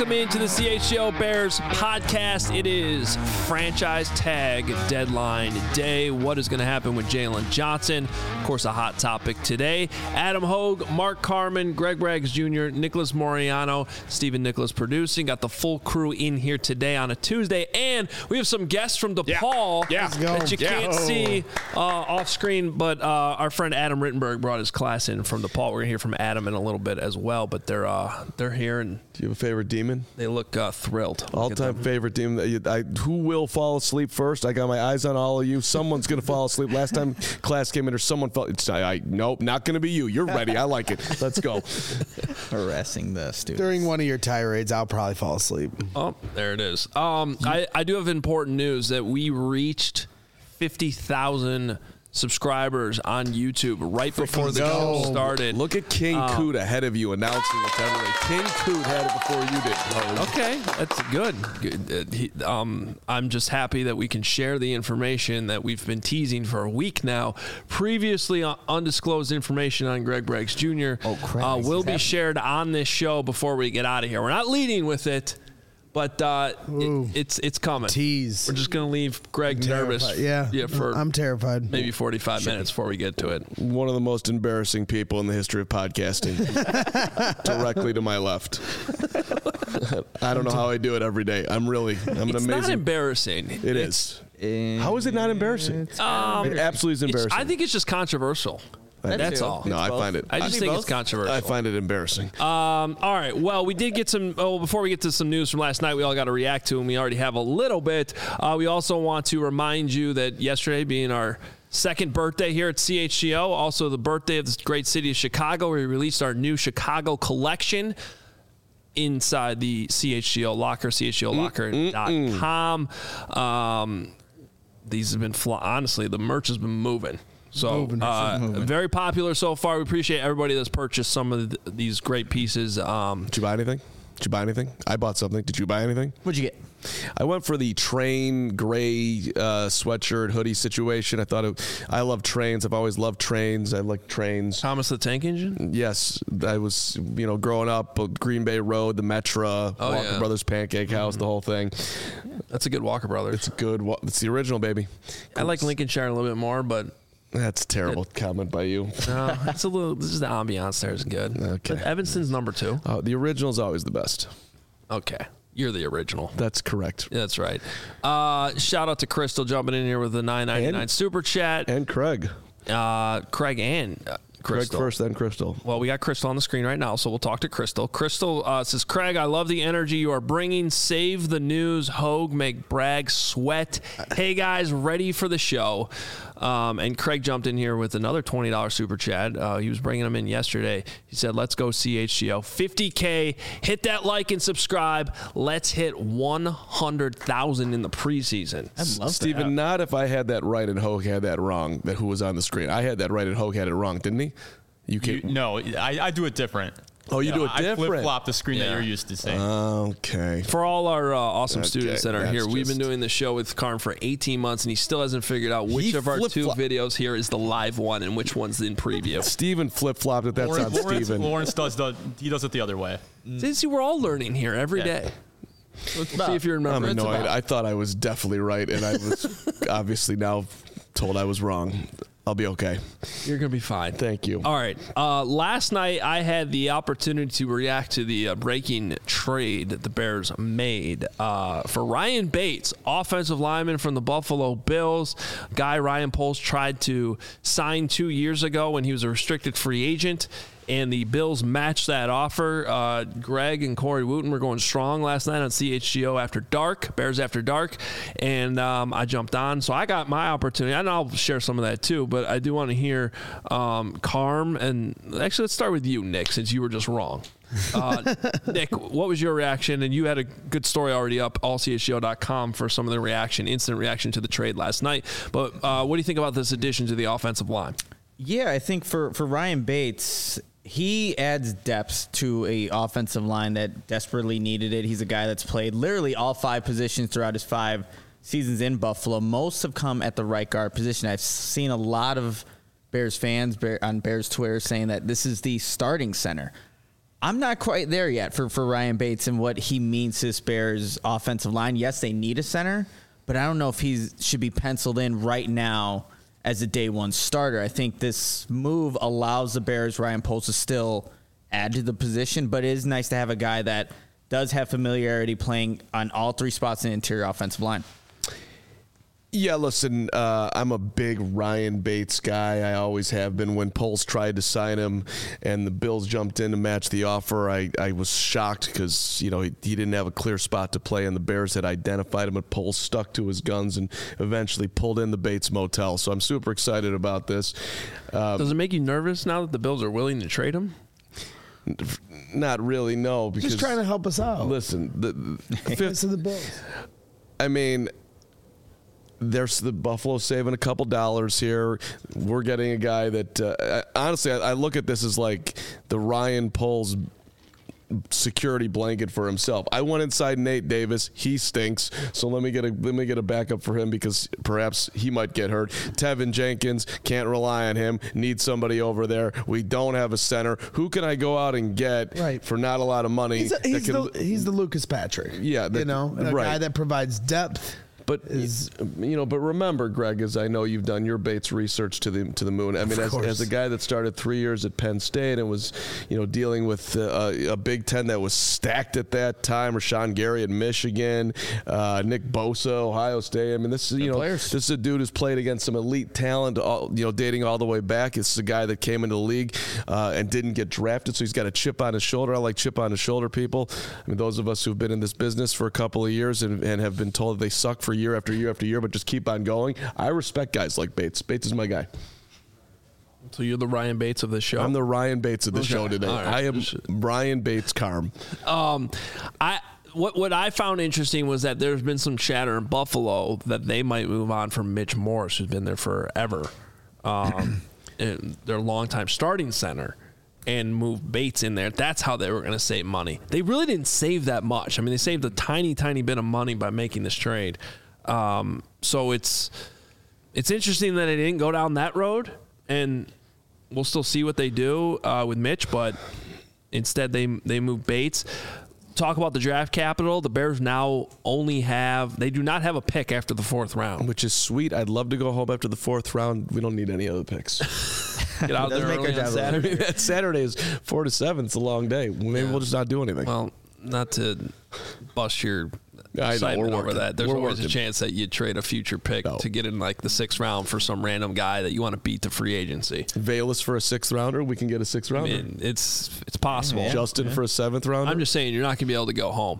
Welcome into the CHGO Bears podcast. It is franchise tag deadline day. What is going to happen with Jalen Johnson? Of course, a hot topic today. Adam Hogue, Mark Carman, Greg Braggs Jr., Nicholas Moriano, Stephen Nicholas producing. Got the full crew in here today on a Tuesday. And we have some guests from DePaul that you can't see off screen. But our friend Adam Rittenberg brought his class in from DePaul. We're going to hear from Adam in a little bit as well. But they're here. And do you have a favorite demon? They look thrilled. All-time favorite demon. Who will fall asleep first? I got my eyes on all of you. Someone's going to fall asleep. Last time class came in, or someone fell. Nope, not going to be you. You're ready. I like it. Let's go. Harassing the students. During one of your tirades, I'll probably fall asleep. Oh, there it is. I do have important news that we reached 50,000 subscribers on YouTube right before the show started. Look at King Coot ahead of you announcing it to everybody. King Coot had it before you did. Okay, that's good. I'm just happy that we can share the information that we've been teasing for a week now. Previously undisclosed information on Greg Braggs Jr. Will be shared on this show before we get out of here. We're not leading with it, but it's coming. Tease. We're just going to leave Greg nervous. Yeah, for I'm terrified. Maybe 45 minutes before we get to it. One of the most embarrassing people in the history of podcasting. Directly to my left. I don't know how I do it every day. I'm an amazing. It's not embarrassing. It is. How is it not embarrassing? It absolutely is embarrassing. I think it's just controversial. That's all. No, I find it. I just think it's controversial. I find it embarrassing. All right. Well, we did get some. Before we get to some news from last night, we all got to react to, and we already have a little bit. We also want to remind you that yesterday, being our second birthday here at CHGO, also the birthday of this great city of Chicago, we released our new Chicago collection inside the CHGO locker, chgolocker.com. These have been honestly, the merch has been moving. So very popular so far. We appreciate everybody that's purchased some of these great pieces. Did you buy anything? I bought something. Did you buy anything? What'd you get? I went for the train gray sweatshirt hoodie situation. I love trains. I've always loved trains. I like trains. Thomas the Tank Engine? Yes. I was, growing up, Green Bay Road, the Metra, Walker Brothers Pancake House, the whole thing. That's a good Walker Brothers. It's good. It's the original, baby. I like Lincolnshire a little bit more, but... That's a terrible comment by you. No, it's a little. This is the ambiance there is good. Okay. But Evanston's number 2. The original is always the best. Okay. You're the original. That's correct. That's right. Shout out to Crystal jumping in here with the $9.99 super chat. And Craig. Craig and Crystal. Craig first, then Crystal. Well, we got Crystal on the screen right now, so we'll talk to Crystal. Crystal says, Craig, I love the energy you are bringing. Save the news. Hogue, make Bragg sweat. Hey, guys, ready for the show. And Craig jumped in here with another $20 super chat. He was bringing them in yesterday. He said, let's go CHGO. 50K. Hit that like and subscribe. Let's hit 100,000 in the preseason. I love Steven, that. not if I had that right and Hogue had that wrong, that who was on the screen. I had that right and Hogue had it wrong, didn't he? No, I do it different. Oh, you do it different? I flip-flop the screen that you're used to seeing. Okay. For all our awesome students that are here, we've been doing this show with Karn for 18 months, and he still hasn't figured out which of our 2 videos here is the live one and which one's in preview. Steven flip-flopped it. That's on Steven. Lawrence does it the other way. See, we're all learning here every day. Let's see if you remember. I'm annoyed. I thought I was definitely right, and I was obviously now told I was wrong. I'll be okay. You're going to be fine. Thank you. All right. Last night, I had the opportunity to react to the breaking trade that the Bears made for Ryan Bates, offensive lineman from the Buffalo Bills. Guy Ryan Poles tried to sign 2 years ago when he was a restricted free agent. And the Bills matched that offer. Greg and Corey Wooten were going strong last night on CHGO After Dark, Bears After Dark, and I jumped on. So I got my opportunity, and I'll share some of that too, but I do want to hear Carm, and actually let's start with you, Nick, since you were just wrong. Nick, what was your reaction? And you had a good story already up, allchgo.com, for some of the instant reaction to the trade last night. But what do you think about this addition to the offensive line? Yeah, I think for Ryan Bates, he adds depth to a offensive line that desperately needed it. He's a guy that's played literally all 5 positions throughout his 5 seasons in Buffalo. Most have come at the right guard position. I've seen a lot of Bears fans on Bears Twitter saying that this is the starting center. I'm not quite there yet for Ryan Bates and what he means to this Bears offensive line. Yes, they need a center, but I don't know if he should be penciled in right now as a day one starter. I think this move allows the Bears, Ryan Poles, to still add to the position, but it is nice to have a guy that does have familiarity playing on all three spots in the interior offensive line. Yeah, listen, I'm a big Ryan Bates guy. I always have been. When Poles tried to sign him and the Bills jumped in to match the offer, I was shocked because, he didn't have a clear spot to play, and the Bears had identified him, but Poles stuck to his guns and eventually pulled in the Bates Motel. So I'm super excited about this. Does it make you nervous now that the Bills are willing to trade him? Not really, no. Because, Just trying to help us out. Listen, the Fifth of the Bills. I mean, there's the Buffalo saving a couple dollars here. We're getting a guy that, honestly, I look at this as like the Ryan Poles security blanket for himself. I went inside Nate Davis. He stinks. So let me get a backup for him because perhaps he might get hurt. Tevin Jenkins, can't rely on him. Need somebody over there. We don't have a center. Who can I go out and get for not a lot of money? He's the Lucas Patrick. Yeah, a guy that provides depth. But but remember, Greg, as I know you've done your Bates research to the moon. I mean, as a guy that started 3 years at Penn State and was dealing with a Big Ten that was stacked at that time, Rashawn Gary at Michigan, Nick Bosa, Ohio State. I mean, this is a dude who's played against some elite talent, dating all the way back. This is a guy that came into the league and didn't get drafted, so he's got a chip on his shoulder. I like chip on his shoulder people. I mean, those of us who've been in this business for a couple of years and have been told they suck for year after year after year, but just keep on going. I respect guys like Bates. Bates is my guy. So you're the Ryan Bates of this show? I'm the Ryan Bates of the show today. Right. I am Ryan Bates Carm. What I found interesting was that there's been some chatter in Buffalo that they might move on from Mitch Morse, who's been there forever, their longtime starting center, and move Bates in there. That's how they were going to save money. They really didn't save that much. I mean, they saved a tiny, tiny bit of money by making this trade. So it's interesting that they didn't go down that road, and we'll still see what they do with Mitch, but instead they move Bates. Talk about the draft capital. The Bears now they do not have a pick after the fourth round. Which is sweet. I'd love to go home after the fourth round. We don't need any other picks. Get out there early on Saturday. That Saturday is 4 to 7. It's a long day. Maybe we'll just not do anything. Well, not to bust your excitement over that. There's always a chance that you trade a future pick to get in like the 6th round for some random guy that you want to beat to free agency. Velas for a 6th rounder. We can get a 6th rounder. I mean, it's possible. Yeah. Justin for a 7th rounder. I'm just saying you're not going to be able to go home.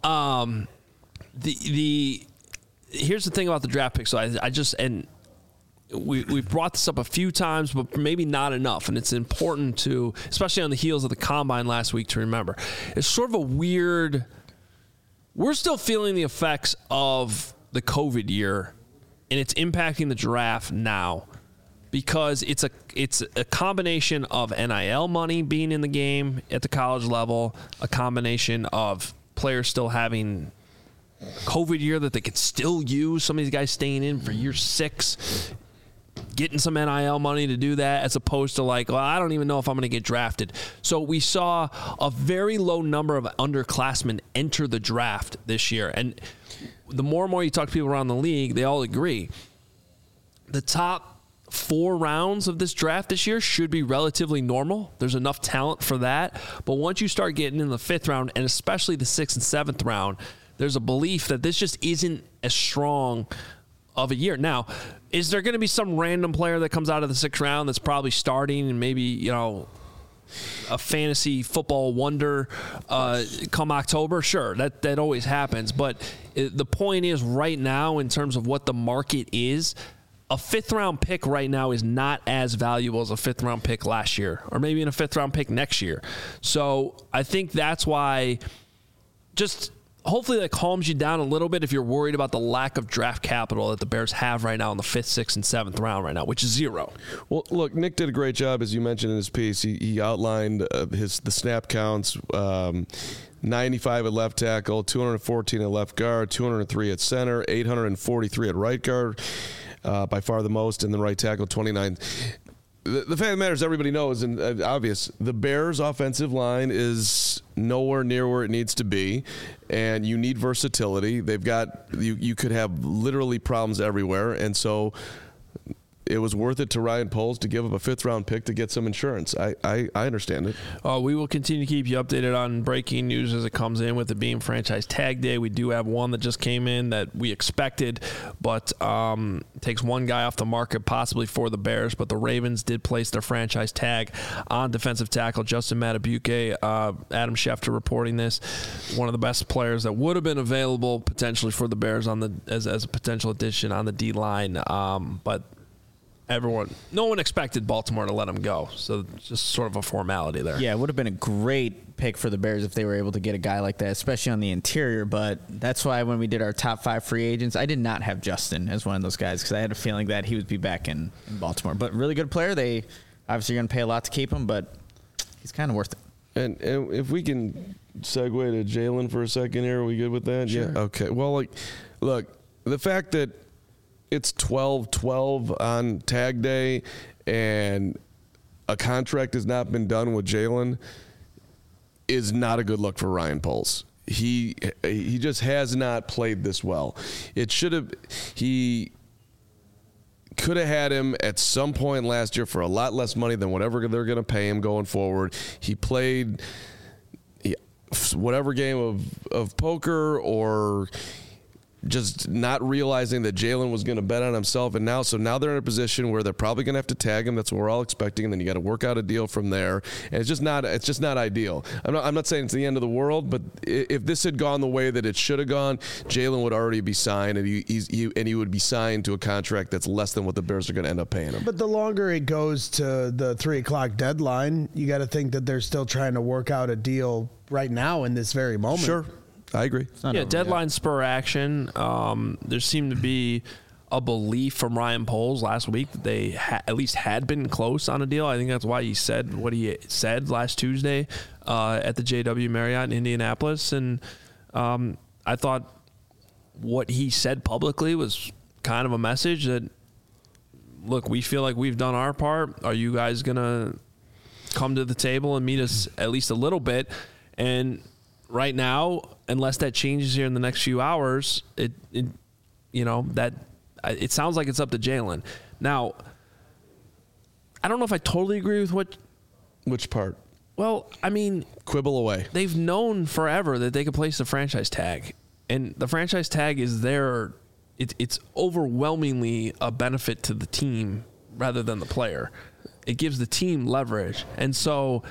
Here's the thing about the draft pick. So we've brought this up a few times, but maybe not enough. And it's important to, especially on the heels of the Combine last week, to remember. It's sort of a weird. We're still feeling the effects of the COVID year, and it's impacting the draft now because it's a combination of NIL money being in the game at the college level, a combination of players still having COVID year that they could still use. Some of these guys staying in for year 6, getting some NIL money to do that, as opposed to like, well, I don't even know if I'm going to get drafted. So we saw a very low number of underclassmen enter the draft this year. And the more and more you talk to people around the league, they all agree. The top 4 rounds of this draft this year should be relatively normal. There's enough talent for that. But once you start getting in the 5th round, and especially the 6th and 7th round, there's a belief that this just isn't as strong of a year. Now, is there going to be some random player that comes out of the 6th round that's probably starting and maybe, a fantasy football wonder come October? Sure, that always happens. But the point is, right now, in terms of what the market is, a 5th round pick right now is not as valuable as a 5th round pick last year, or maybe in a 5th round pick next year. So I think that's why just hopefully that calms you down a little bit if you're worried about the lack of draft capital that the Bears have right now in the 5th, 6th, and 7th round right now, which is 0. Well, look, Nick did a great job, as you mentioned in his piece. He outlined the snap counts, 95 at left tackle, 214 at left guard, 203 at center, 843 at right guard, by far the most, and the right tackle, 29. the fact of the matter is, everybody knows, and obvious, the Bears' offensive line is nowhere near where it needs to be, and you need versatility. They've got you could have literally problems everywhere, and so it was worth it to Ryan Poles to give up a 5th-round pick to get some insurance. I understand it. We will continue to keep you updated on breaking news as it comes in, with it being franchise tag day. We do have one that just came in that we expected, but takes one guy off the market possibly for the Bears. But the Ravens did place their franchise tag on defensive tackle Justin Madubuike. Adam Schefter reporting this. One of the best players that would have been available potentially for the Bears on the as a potential addition on the D-line. But no one expected Baltimore to let him go, so it's just sort of a formality there. Yeah, it would have been a great pick for the Bears if they were able to get a guy like that, especially on the interior, but that's why when we did our top 5 free agents, I did not have Justin as one of those guys because I had a feeling that he would be back in Baltimore. But really good player. They obviously are going to pay a lot to keep him, but he's kind of worth it. And if we can segue to Jalen for a second here, are we good with that? Sure. Yeah. Okay. Well, look, the fact that it's 12-12 on tag day and a contract has not been done with Jalen is not a good look for Ryan Poles. He just has not played this well. He could have had him at some point last year for a lot less money than whatever they're going to pay him going forward. He played whatever game of poker or just not realizing that Jalen was going to bet on himself, and now they're in a position where they're probably going to have to tag him. That's what we're all expecting, and then you got to work out a deal from there. And it's just not ideal. I'm not saying it's the end of the world, but if this had gone the way that it should have gone, Jalen would already be signed, and he would be signed to a contract that's less than what the Bears are going to end up paying him. But the longer it goes to the 3:00 deadline, you got to think that they're still trying to work out a deal right now in this very moment. Sure. I agree. Yeah, deadline spur action. There seemed to be a belief from Ryan Poles last week that they at least had been close on a deal. I think that's why he said what he said last Tuesday at the JW Marriott in Indianapolis. And I thought what he said publicly was kind of a message that, look, we feel like we've done our part. Are you guys going to come to the table and meet us at least a little bit? And right now, unless that changes here in the next few hours, it sounds like it's up to Jalen. Now, I don't know if I totally agree with which part. Well, I mean, quibble away. They've known forever that they could place the franchise tag, and the franchise tag is there. It's overwhelmingly a benefit to the team rather than the player. It gives the team leverage, and so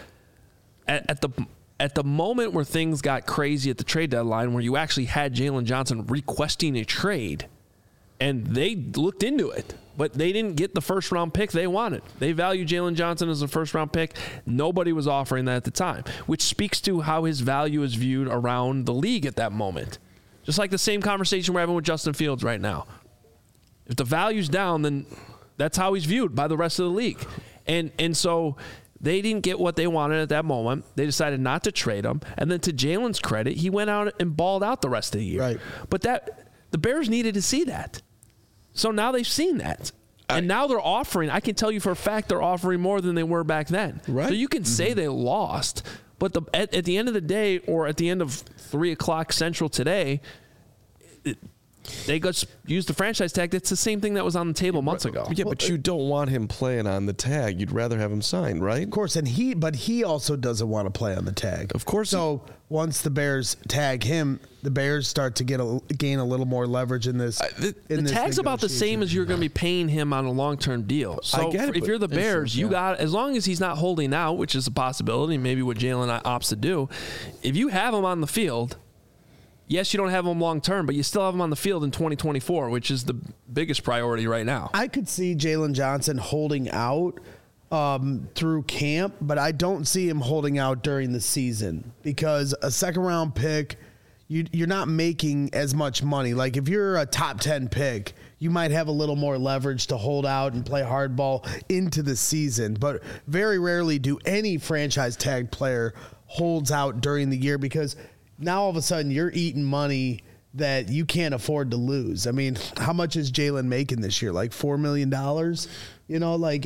at the moment where things got crazy at the trade deadline, where you actually had Jalen Johnson requesting a trade, and they looked into it, but they didn't get the first-round pick they wanted. They value Jalen Johnson as a first-round pick. Nobody was offering that at the time, which speaks to how his value is viewed around the league at that moment. Just like the same conversation we're having with Justin Fields right now. If the value's down, then that's how he's viewed by the rest of the league. And so they didn't get what they wanted at that moment. They decided not to trade him. And then to Jalen's credit, he went out and balled out the rest of the year. Right. But the Bears needed to see that. So now they've seen that. And now they're offering, I can tell you for a fact, they're offering more than they were back then. Right. So you can say they lost, but at the end of the day, or at the end of 3:00 Central today, they got used the franchise tag. That's the same thing that was on the table months ago. Yeah, but you don't want him playing on the tag. You'd rather have him signed, right? Of course, but he also doesn't want to play on the tag. Of course. So once the Bears tag him, the Bears start to gain a little more leverage in this. The tag's about the same as you're going to be paying him on a long-term deal. So I get it, if you're the Bears, you got, as long as he's not holding out, which is a possibility, maybe what Jalen opts to do, if you have him on the field, yes, you don't have him long-term, but you still have him on the field in 2024, which is the biggest priority right now. I could see Jalen Johnson holding out through camp, but I don't see him holding out during the season because a second-round pick, you're not making as much money. Like if you're a top 10 pick, you might have a little more leverage to hold out and play hardball into the season, but very rarely do any franchise tag player holds out during the year because now all of a sudden you're eating money that you can't afford to lose. I mean, how much is Jalen making this year? Like $4 million? You know, like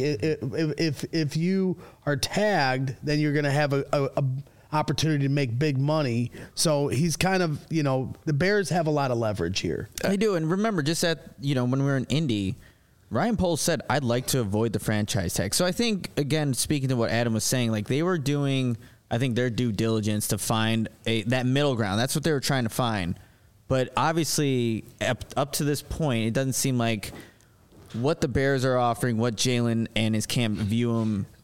if you are tagged, then you're going to have a opportunity to make big money. So he's kind of, you know, the Bears have a lot of leverage here. They do. And remember, just at, you know, when we were in Indy, Ryan Poles said, I'd like to avoid the franchise tag. So I think, again, speaking to what Adam was saying, like they were doing, I think, their due diligence to find that middle ground. That's what they were trying to find. But obviously, up to this point, it doesn't seem like what the Bears are offering, what Jalen and his camp view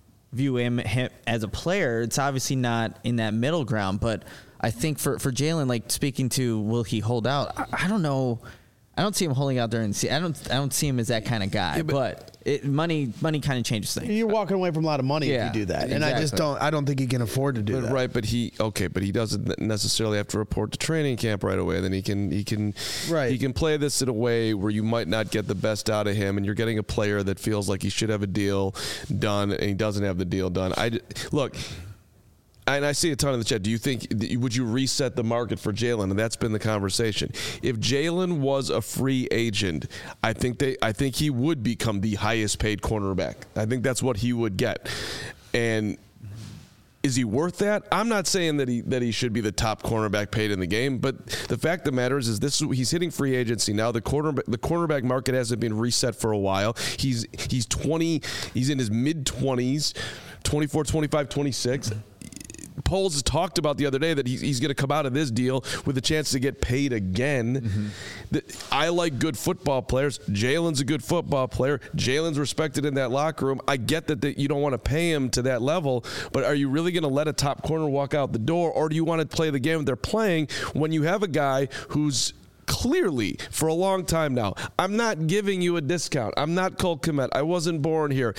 him as a player, it's obviously not in that middle ground. But I think for Jalen, like speaking to will he hold out? I don't know. I don't see him holding out there and see. I don't see him as that kind of guy. Yeah, but money kind of changes things. You're walking away from a lot of money if you do that, and exactly. I don't think he can afford to do that. Right, but he doesn't necessarily have to report to training camp right away. Then he can play this in a way where you might not get the best out of him, and you're getting a player that feels like he should have a deal done, and he doesn't have the deal done. Look. And I see a ton in the chat. Do you think, would you reset the market for Jalen? And that's been the conversation. If Jalen was a free agent, I think he would become the highest paid cornerback. I think that's what he would get. And is he worth that? I'm not saying that he should be the top cornerback paid in the game, but the fact of the matter is he's hitting free agency now. The cornerback market hasn't been reset for a while. He's 20. He's in his mid 20s, 24, 25, 26. Poles has talked about the other day that he's going to come out of this deal with a chance to get paid again. Mm-hmm. I like good football players. Jalen's a good football player. Jalen's respected in that locker room. I get that you don't want to pay him to that level, but are you really going to let a top corner walk out the door, or do you want to play the game they're playing when you have a guy who's clearly, for a long time now, I'm not giving you a discount. I'm not Cole Kmet. I wasn't born here.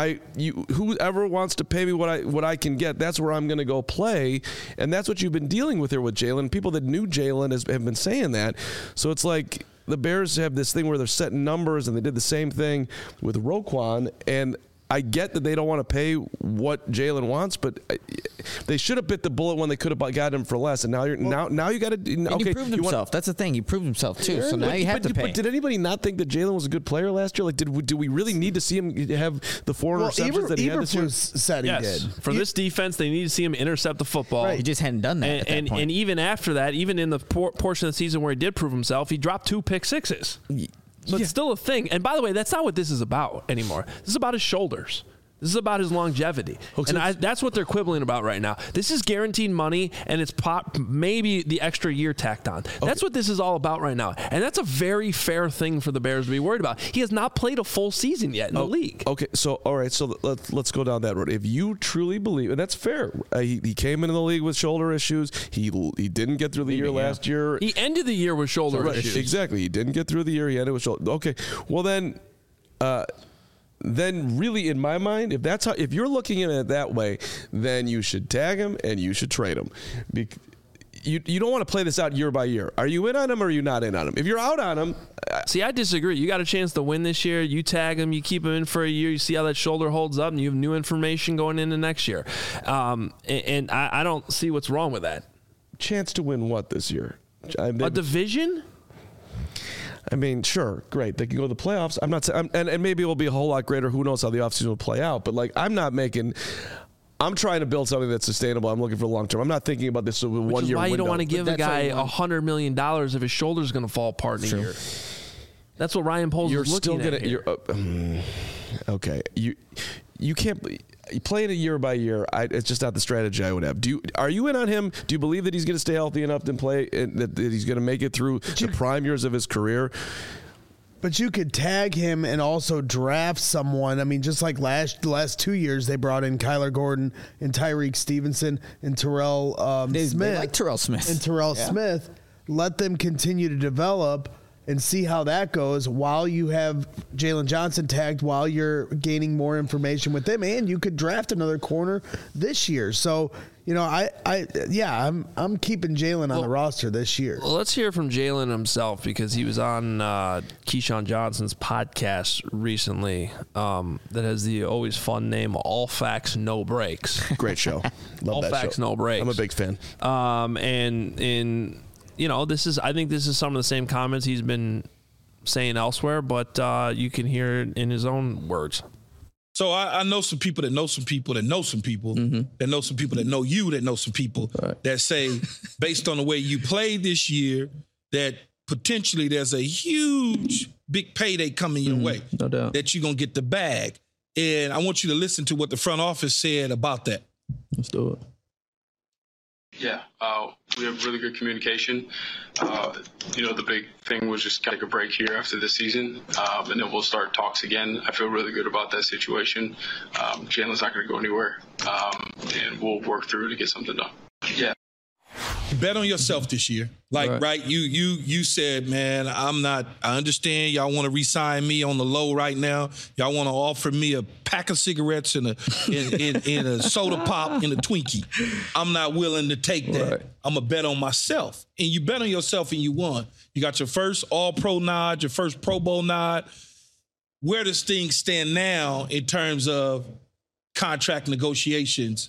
Whoever wants to pay me what I can get, that's where I'm going to go play. And that's what you've been dealing with here with Jalen. People that knew Jalen have been saying that. So it's like the Bears have this thing where they're setting numbers, and they did the same thing with Roquan. And I get that they don't want to pay what Jalen wants, but they should have bit the bullet when they could have got him for less. And now you got to. Okay, he proved himself. That's the thing. He proved himself too. So now you have to pay. But did anybody not think that Jalen was a good player last year? Like, do we really need to see him have the 4 interceptions that he had this year? Said he did. For this defense, they need to see him intercept the football. Right. He just hadn't done that. And even after that, even in the portion of the season where he did prove himself, he dropped 2 pick sixes. So it's still a thing. And by the way, that's not what this is about anymore. This is about his shoulders. This is about his longevity. And that's what they're quibbling about right now. This is guaranteed money, and it's maybe the extra year tacked on. Okay. That's what this is all about right now. And that's a very fair thing for the Bears to be worried about. He has not played a full season yet in the league. Okay, so all right, so let's go down that road. If you truly believe, and that's fair, he came into the league with shoulder issues. He didn't get through the year last year. He ended the year with shoulder issues. Exactly. He didn't get through the year. He ended with shoulder. Okay, well then really, in my mind, if you're looking at it that way, then you should tag him and you should trade him. You don't want to play this out year by year. Are you in on him or are you not in on him? If you're out on him... See, I disagree. You got a chance to win this year. You tag him. You keep him in for a year. You see how that shoulder holds up, and you have new information going into next year. And I don't see what's wrong with that. Chance to win what this year? A division? I mean, sure, great. They can go to the playoffs. I'm not saying, and maybe it will be a whole lot greater. Who knows how the offseason will play out? But like, I'm trying to build something that's sustainable. I'm looking for the long term. I'm not thinking about this 1 year window. Which is why you don't want to give a guy $100 million if his shoulder's going to fall apart in a year. That's what Ryan Poles is looking at. Okay, you can't. Playing it year by year, it's just not the strategy I would have. Are you in on him? Do you believe that he's going to stay healthy enough to play, and that he's going to make it through the prime years of his career? But you could tag him and also draft someone. I mean, just like the last 2 years, they brought in Kyler Gordon and Tyreek Stevenson and Terrell Smith. They like Terrell Smith. And Terrell Smith. Let them continue to develop and see how that goes while you have Jalen Johnson tagged, while you're gaining more information with them, and you could draft another corner this year. So, you know, I'm keeping Jalen on the roster this year. Well, let's hear from Jalen himself, because he was on Keyshawn Johnson's podcast recently that has the always fun name, All Facts, No Breaks. Great show. Love All that Facts, show. No Breaks. I'm a big fan. And I think this is some of the same comments he's been saying elsewhere, but you can hear it in his own words. So I know some people that know some people that know some people that know some people that know you that know some people that say, based on the way you played this year, that potentially there's a huge, big payday coming your way. No doubt. That you're going to get the bag. And I want you to listen to what the front office said about that. Let's do it. Yeah, we have really good communication. The big thing was just take a break here after this season, and then we'll start talks again. I feel really good about that situation. Jalen's not going to go anywhere, and we'll work through to get something done. Yeah. Bet on yourself this year. Right? You said, man, I understand y'all want to re-sign me on the low right now. Y'all want to offer me a pack of cigarettes and a soda pop and a Twinkie. I'm not willing to take that. Right. I'm going to bet on myself. And you bet on yourself and you won. You got your first All-Pro nod, your first Pro Bowl nod. Where does things stand now in terms of contract negotiations?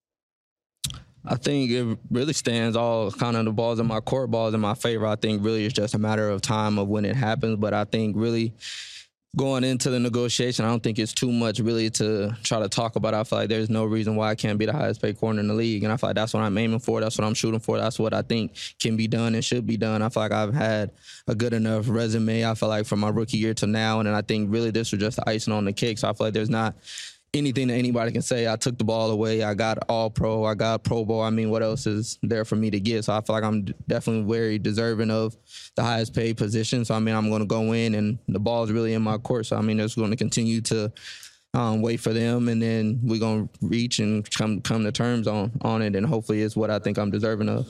I think it really stands all kind of the balls in my court, balls in my favor. I think really it's just a matter of time of when it happens. But I think really going into the negotiation, I don't think it's too much really to try to talk about. I feel like there's no reason why I can't be the highest paid corner in the league. And I feel like that's what I'm aiming for. That's what I'm shooting for. That's what I think can be done and should be done. I feel like I've had a good enough resume, I feel like, from my rookie year to now. And then I think really this was just the icing on the cake. So I feel like there's not anything that anybody can say. I took the ball away. I got All-Pro. I got Pro Bowl. I mean, what else is there for me to get? So I feel like I'm definitely very deserving of the highest paid position. So, I mean, I'm going to go in, and the ball is really in my court. So, I mean, just going to continue to wait for them, and then we're going to reach and come to terms on it, and hopefully it's what I think I'm deserving of.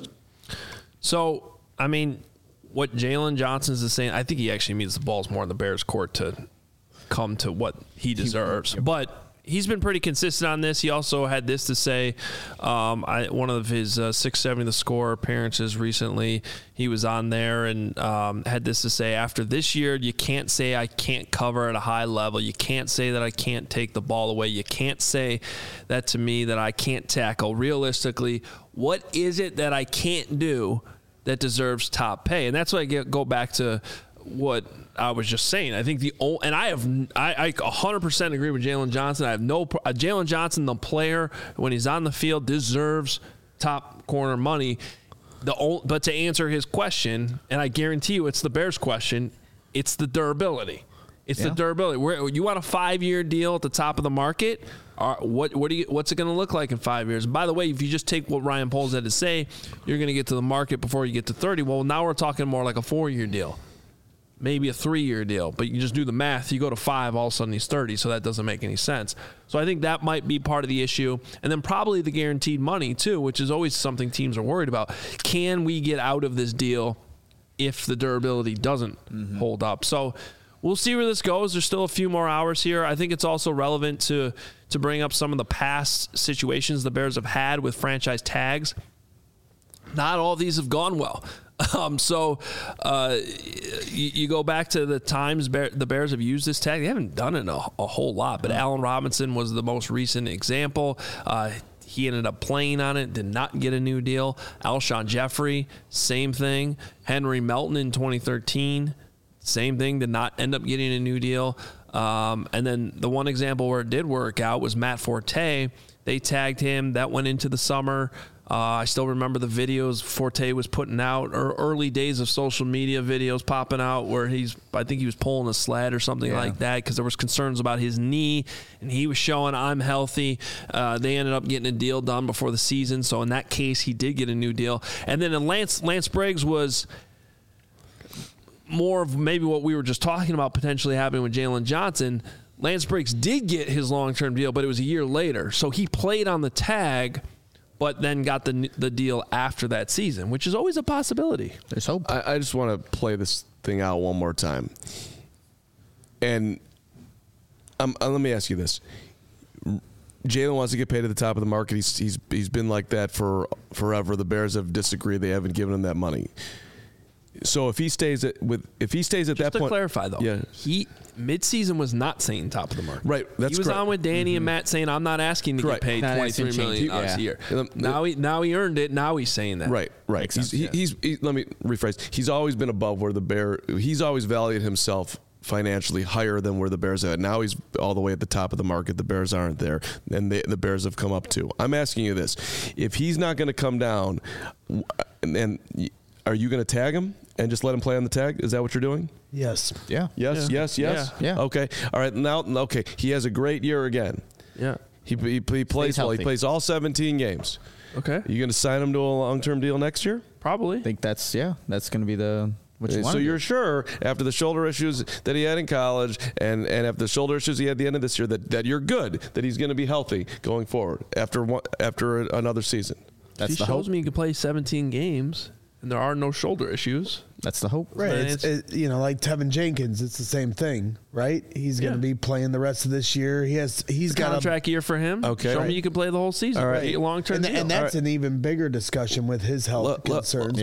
So, I mean, what Jalen Johnson's is saying, I think he actually means the ball's more in the Bears' court to come to what he deserves. But he's been pretty consistent on this. He also had this to say. One of his 670 The Score appearances recently, he was on there and had this to say: after this year, you can't say I can't cover at a high level. You can't say that I can't take the ball away. You can't say that to me that I can't tackle. Realistically, what is it that I can't do that deserves top pay? And that's why I go back to what I was just saying. I think I 100% agree with Jalen Johnson. I have Jalen Johnson, the player, when he's on the field, deserves top corner money. But to answer his question, and I guarantee you it's the Bears' question, it's the durability. It's the durability. You want a 5-year deal at the top of the market? What's it going to look like in 5 years? And by the way, if you just take what Ryan Poles had to say, you're going to get to the market before you get to 30. Well, now we're talking more like a 4-year deal. Maybe a 3-year deal, but you just do the math. You go to 5, all of a sudden he's 30, so that doesn't make any sense. So I think that might be part of the issue. And then probably the guaranteed money, too, which is always something teams are worried about. Can we get out of this deal if the durability doesn't hold up? So we'll see where this goes. There's still a few more hours here. I think it's also relevant to bring up some of the past situations the Bears have had with franchise tags. Not all of these have gone well. You go back to the times the Bears have used this tag. They haven't done it a whole lot, but Allen Robinson was the most recent example. He ended up playing on it, did not get a new deal. Alshon Jeffrey, same thing. Henry Melton in 2013, same thing, did not end up getting a new deal. And then the one example where it did work out was Matt Forte. They tagged him. That went into the summer. I still remember the videos Forte was putting out, or early days of social media videos popping out where I think he was pulling a sled or something like that because there was concerns about his knee, and he was showing I'm healthy. They ended up getting a deal done before the season, so in that case, he did get a new deal. And then Lance Briggs was more of maybe what we were just talking about potentially happening with Jalen Johnson. Lance Briggs did get his long-term deal, but it was a year later. So he played on the tag, but then got the deal after that season, which is always a possibility. There's hope. I just want to play this thing out one more time. And let me ask you this. Jalen wants to get paid at the top of the market. He's been like that for forever. The Bears have disagreed. They haven't given him that money. So if he stays at that Just point, to clarify though, yeah, he midseason was not saying top of the market. Right, that's he was correct. on with Danny and Matt saying, "I'm not asking to get paid $23 million a year." Now he earned it. Now he's saying that. Right. He's let me rephrase. He's always been above where the Bear. He's always valued himself financially higher than where the Bears are at. Now he's all the way at the top of the market. The Bears aren't there, and the Bears have come up too. I'm asking you this: if he's not going to come down, and are you going to tag him and just let him play on the tag? Is that what you're doing? Yes. Yeah. Yes. Yeah. Okay. All right. Now, okay. He has a great year again. Yeah. He plays well. He plays all 17 games. Okay. You going to sign him to a long-term deal next year? Probably. I think that's going to be what you want. So you're sure after the shoulder issues that he had in college and after the shoulder issues he had at the end of this year that you're good, that he's going to be healthy going forward after another season. That's the hope. He shows me he can play 17 games and there are no shoulder issues. That's the hope. Right. Like Tevin Jenkins, it's the same thing, right? He's going to be playing the rest of this year. He's got a contract year for him. Okay. Show me you can play the whole season. All right. Long-term deal. And that's an even bigger discussion with his health concerns.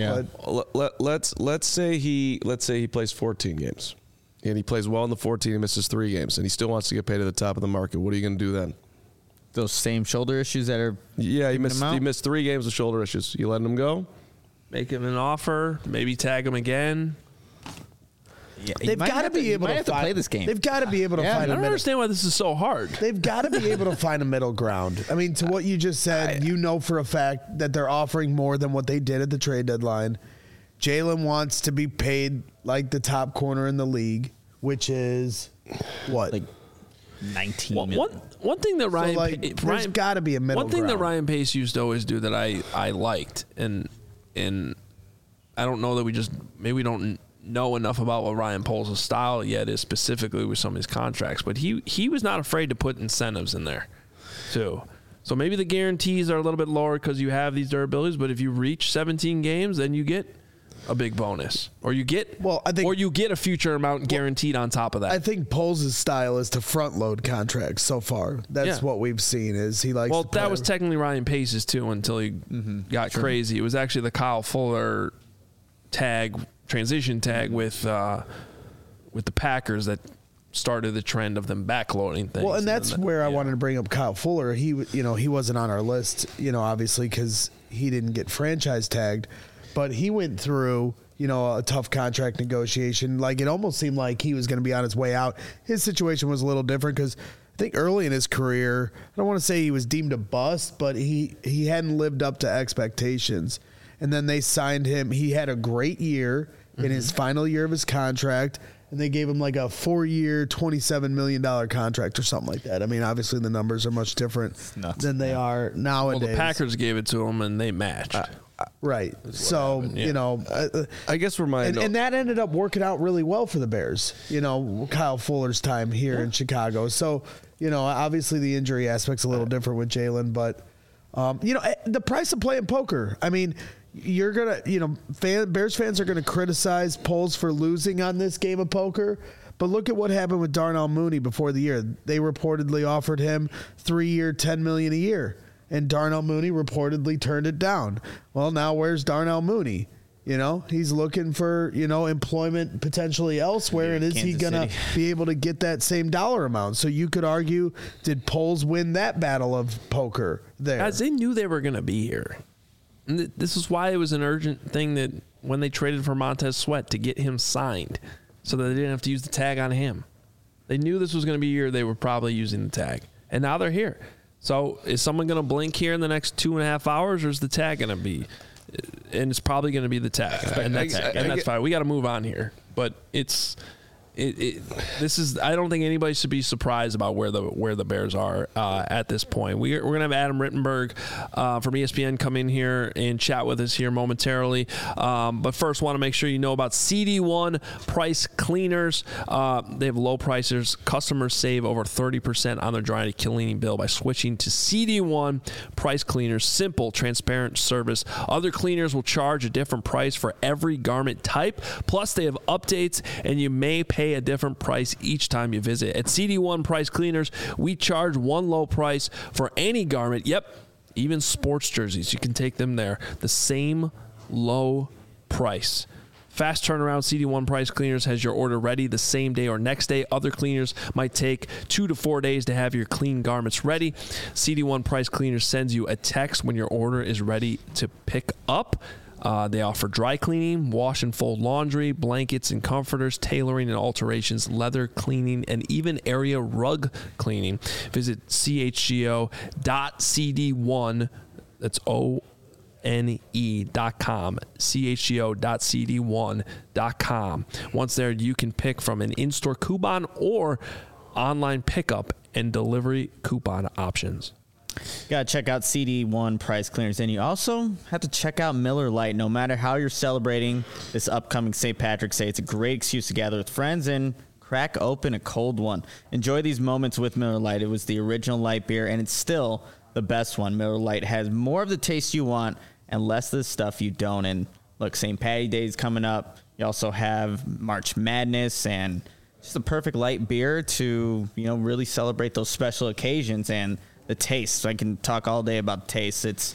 Let's say he plays 14 games. And he plays well in the 14 and misses 3 games and he still wants to get paid at the top of the market. What are you going to do then? Those same shoulder issues that are he missed 3 games with shoulder issues. You letting him go? Make him an offer, maybe tag him again. Yeah, they've got to be able to play this game. They've got to be able to find. I don't understand why this is so hard. They've got to be able to find a middle ground. I mean, to what you just said, for a fact that they're offering more than what they did at the trade deadline. Jalen wants to be paid like the top corner in the league, which is what, like $19 million. One thing that there's got to be a middle. One thing ground. that Ryan Pace used to always do that I liked, and I don't know that we don't know enough about what Ryan Poles' style yet is specifically with some of his contracts, but he was not afraid to put incentives in there too. So maybe the guarantees are a little bit lower because you have these durabilities, but if you reach 17 games, then you get a big bonus, or you get a future amount guaranteed on top of that. I think Poles' style is to front load contracts so far. That's what we've seen is he likes. Well, that was technically Ryan Pace's too until he got crazy. It was actually the Kyle Fuller transition tag with the Packers that started the trend of them backloading things. Well, and that's where I wanted to bring up Kyle Fuller. He wasn't on our list, obviously because he didn't get franchise tagged. But he went through, a tough contract negotiation. Like, it almost seemed like he was going to be on his way out. His situation was a little different because I think early in his career, I don't want to say he was deemed a bust, but he hadn't lived up to expectations. And then they signed him. He had a great year in his final year of his contract, and they gave him like a 4-year, $27 million contract or something like that. I mean, obviously the numbers are much different than they are nowadays. Well, the Packers gave it to him, and they matched. Right. So, I guess we're and that ended up working out really well for the Bears, Kyle Fuller's time here in Chicago. So, obviously the injury aspect's a little different with Jalen, but, the price of playing poker, I mean, you're going to, Bears fans are going to criticize Poles for losing on this game of poker. But look at what happened with Darnell Mooney before the year. They reportedly offered him 3-year, $10 million a year. And Darnell Mooney reportedly turned it down. Well, now where's Darnell Mooney? He's looking for, employment potentially elsewhere. And is he going to be able to get that same dollar amount? So you could argue, did Poles win that battle of poker there? Guys, they knew they were going to be here. And this is why it was an urgent thing that when they traded for Montez Sweat to get him signed so that they didn't have to use the tag on him. They knew this was going to be a year they were probably using the tag. And now they're here. So is someone going to blink here in the next 2.5 hours, or is the tag going to be? And it's probably going to be the tag, and that's fine. We got to move on here, but this is. I don't think anybody should be surprised about where the Bears are at this point. We're going to have Adam Rittenberg from ESPN come in here and chat with us here momentarily. But first, want to make sure you know about CD1 Price Cleaners. They have low prices. Customers save over 30% on their dry cleaning bill by switching to CD1 Price Cleaners. Simple, transparent service. Other cleaners will charge a different price for every garment type. Plus, they have updates, and you may pay a different price each time you visit. At CD1 Price Cleaners, we charge one low price for any garment. Yep, even sports jerseys. You can take them there. The same low price. Fast turnaround, CD1 Price Cleaners has your order ready the same day or next day. Other cleaners might take 2 to 4 days to have your clean garments ready. CD1 Price Cleaners sends you a text when your order is ready to pick up. They offer dry cleaning, wash and fold laundry, blankets and comforters, tailoring and alterations, leather cleaning, and even area rug cleaning. Visit chgo.cd1. That's ONE.com, chgo.cd1.com. Once there, you can pick from an in-store coupon or online pickup and delivery coupon options. Got to check out CD1 Price Cleaners. And you also have to check out Miller Lite. No matter how you're celebrating this upcoming St. Patrick's Day, it's a great excuse to gather with friends and crack open a cold one. Enjoy these moments with Miller Lite. It was the original light beer, and it's still the best one. Miller Lite has more of the taste you want and less of the stuff you don't. And look, St. Patty's Day is coming up. You also have March Madness and just the perfect light beer to, really celebrate those special occasions. And the taste. I can talk all day about taste. It's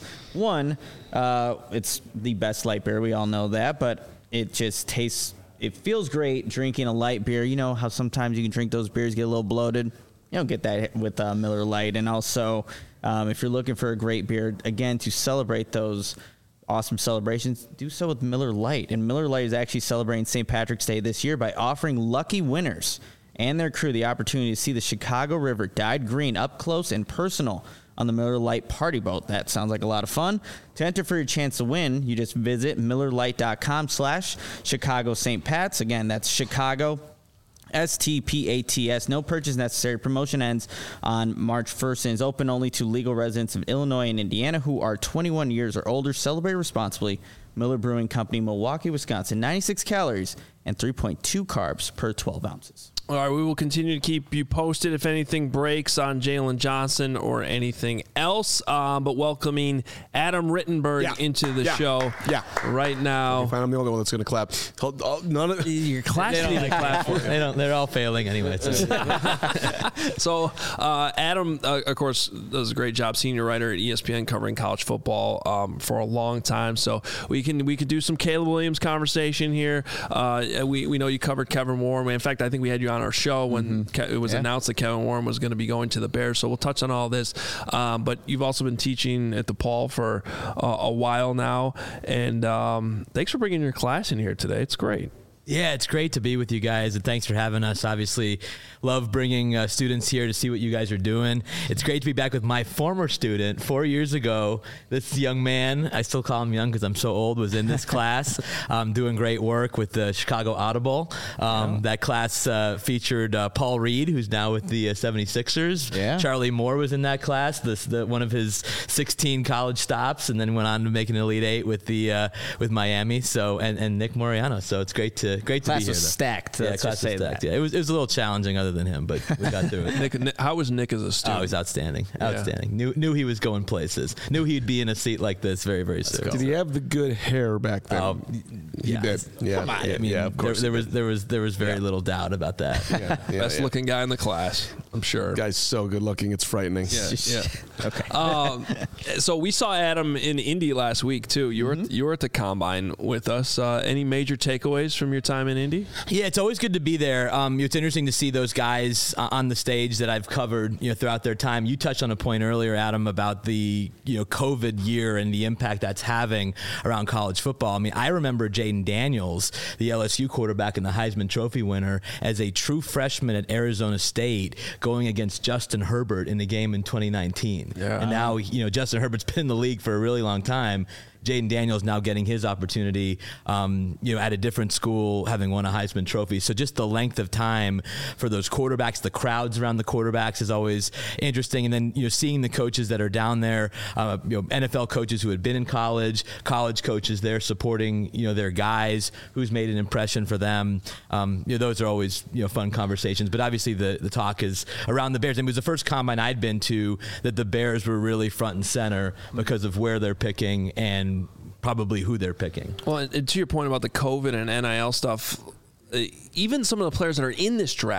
it's the best light beer. We all know that, but it just tastes, it feels great drinking a light beer. You know how sometimes you can drink those beers, get a little bloated. You don't get that with Miller Lite. And also, if you're looking for a great beer, again, to celebrate those awesome celebrations, do so with Miller Lite. And Miller Lite is actually celebrating St. Patrick's Day this year by offering lucky winners and their crew the opportunity to see the Chicago River dyed green up close and personal on the Miller Lite party boat. That sounds like a lot of fun. To enter for your chance to win, you just visit MillerLite.com/Chicago St. Pat's. Again, that's Chicago STPATS. No purchase necessary. Promotion ends on March 1st and is open only to legal residents of Illinois and Indiana who are 21 years or older. Celebrate responsibly. Miller Brewing Company, Milwaukee, Wisconsin. 96 calories and 3.2 carbs per 12 ounces. All right, we will continue to keep you posted if anything breaks on Jalen Johnson or anything else. But welcoming Adam Rittenberg into the show right now. I find I'm the only one that's going to clap. None of your class need to clap for you. They're all failing anyway. So Adam, of course, does a great job, senior writer at ESPN, covering college football for a long time. So we could do some Caleb Williams conversation here. We know you covered Kevin Warren. In fact, I think we had you on our show when it was announced that Kevin Warren was going to be going to the Bears. So we'll touch on all this. But you've also been teaching at DePaul for a while now. And thanks for bringing your class in here today. It's great. Yeah, it's great to be with you guys, and thanks for having us. Obviously, love bringing students here to see what you guys are doing. It's great to be back with my former student 4 years ago. This young man, I still call him young because I'm so old, was in this class doing great work with the Chicago Audible. That class featured Paul Reed, who's now with the 76ers. Yeah. Charlie Moore was in that class, one of his 16 college stops, and then went on to make an Elite Eight with Miami. So and Nick Moriano. So it's great to be here. Class was stacked. Yeah, class was stacked. Yeah, it was a little challenging other than him, but we got through it. Nick, how was Nick as a student? Oh, he was outstanding. Outstanding. Knew he was going places. Knew he'd be in a seat like this very, very soon. Did he have the good hair back then? Oh, he did. Yeah, come on. I mean, of course. There was very little doubt about that. Best looking guy in the class, I'm sure. Guy's so good looking, it's frightening. Yeah. Okay. So we saw Adam in Indy last week too. You were at the Combine with us. Any major takeaways from your time in Indy? Yeah, it's always good to be there. It's interesting to see those guys on the stage that I've covered, throughout their time. You touched on a point earlier, Adam, about the COVID year and the impact that's having around college football. I mean, I remember Jaden Daniels, the LSU quarterback and the Heisman Trophy winner, as a true freshman at Arizona State, going against Justin Herbert in the game in 2019. Yeah. And now, Justin Herbert's been in the league for a really long time. Jaden Daniels now getting his opportunity, at a different school, having won a Heisman Trophy. So just the length of time for those quarterbacks, the crowds around the quarterbacks is always interesting. And then, seeing the coaches that are down there, NFL coaches who had been in college coaches there supporting, their guys, who's made an impression for them. Those are always, fun conversations. But obviously the talk is around the Bears. And it was the first Combine I'd been to that the Bears were really front and center because of where they're picking and probably who they're picking. Well, and to your point about the COVID and NIL stuff, even some of the players that are in this draft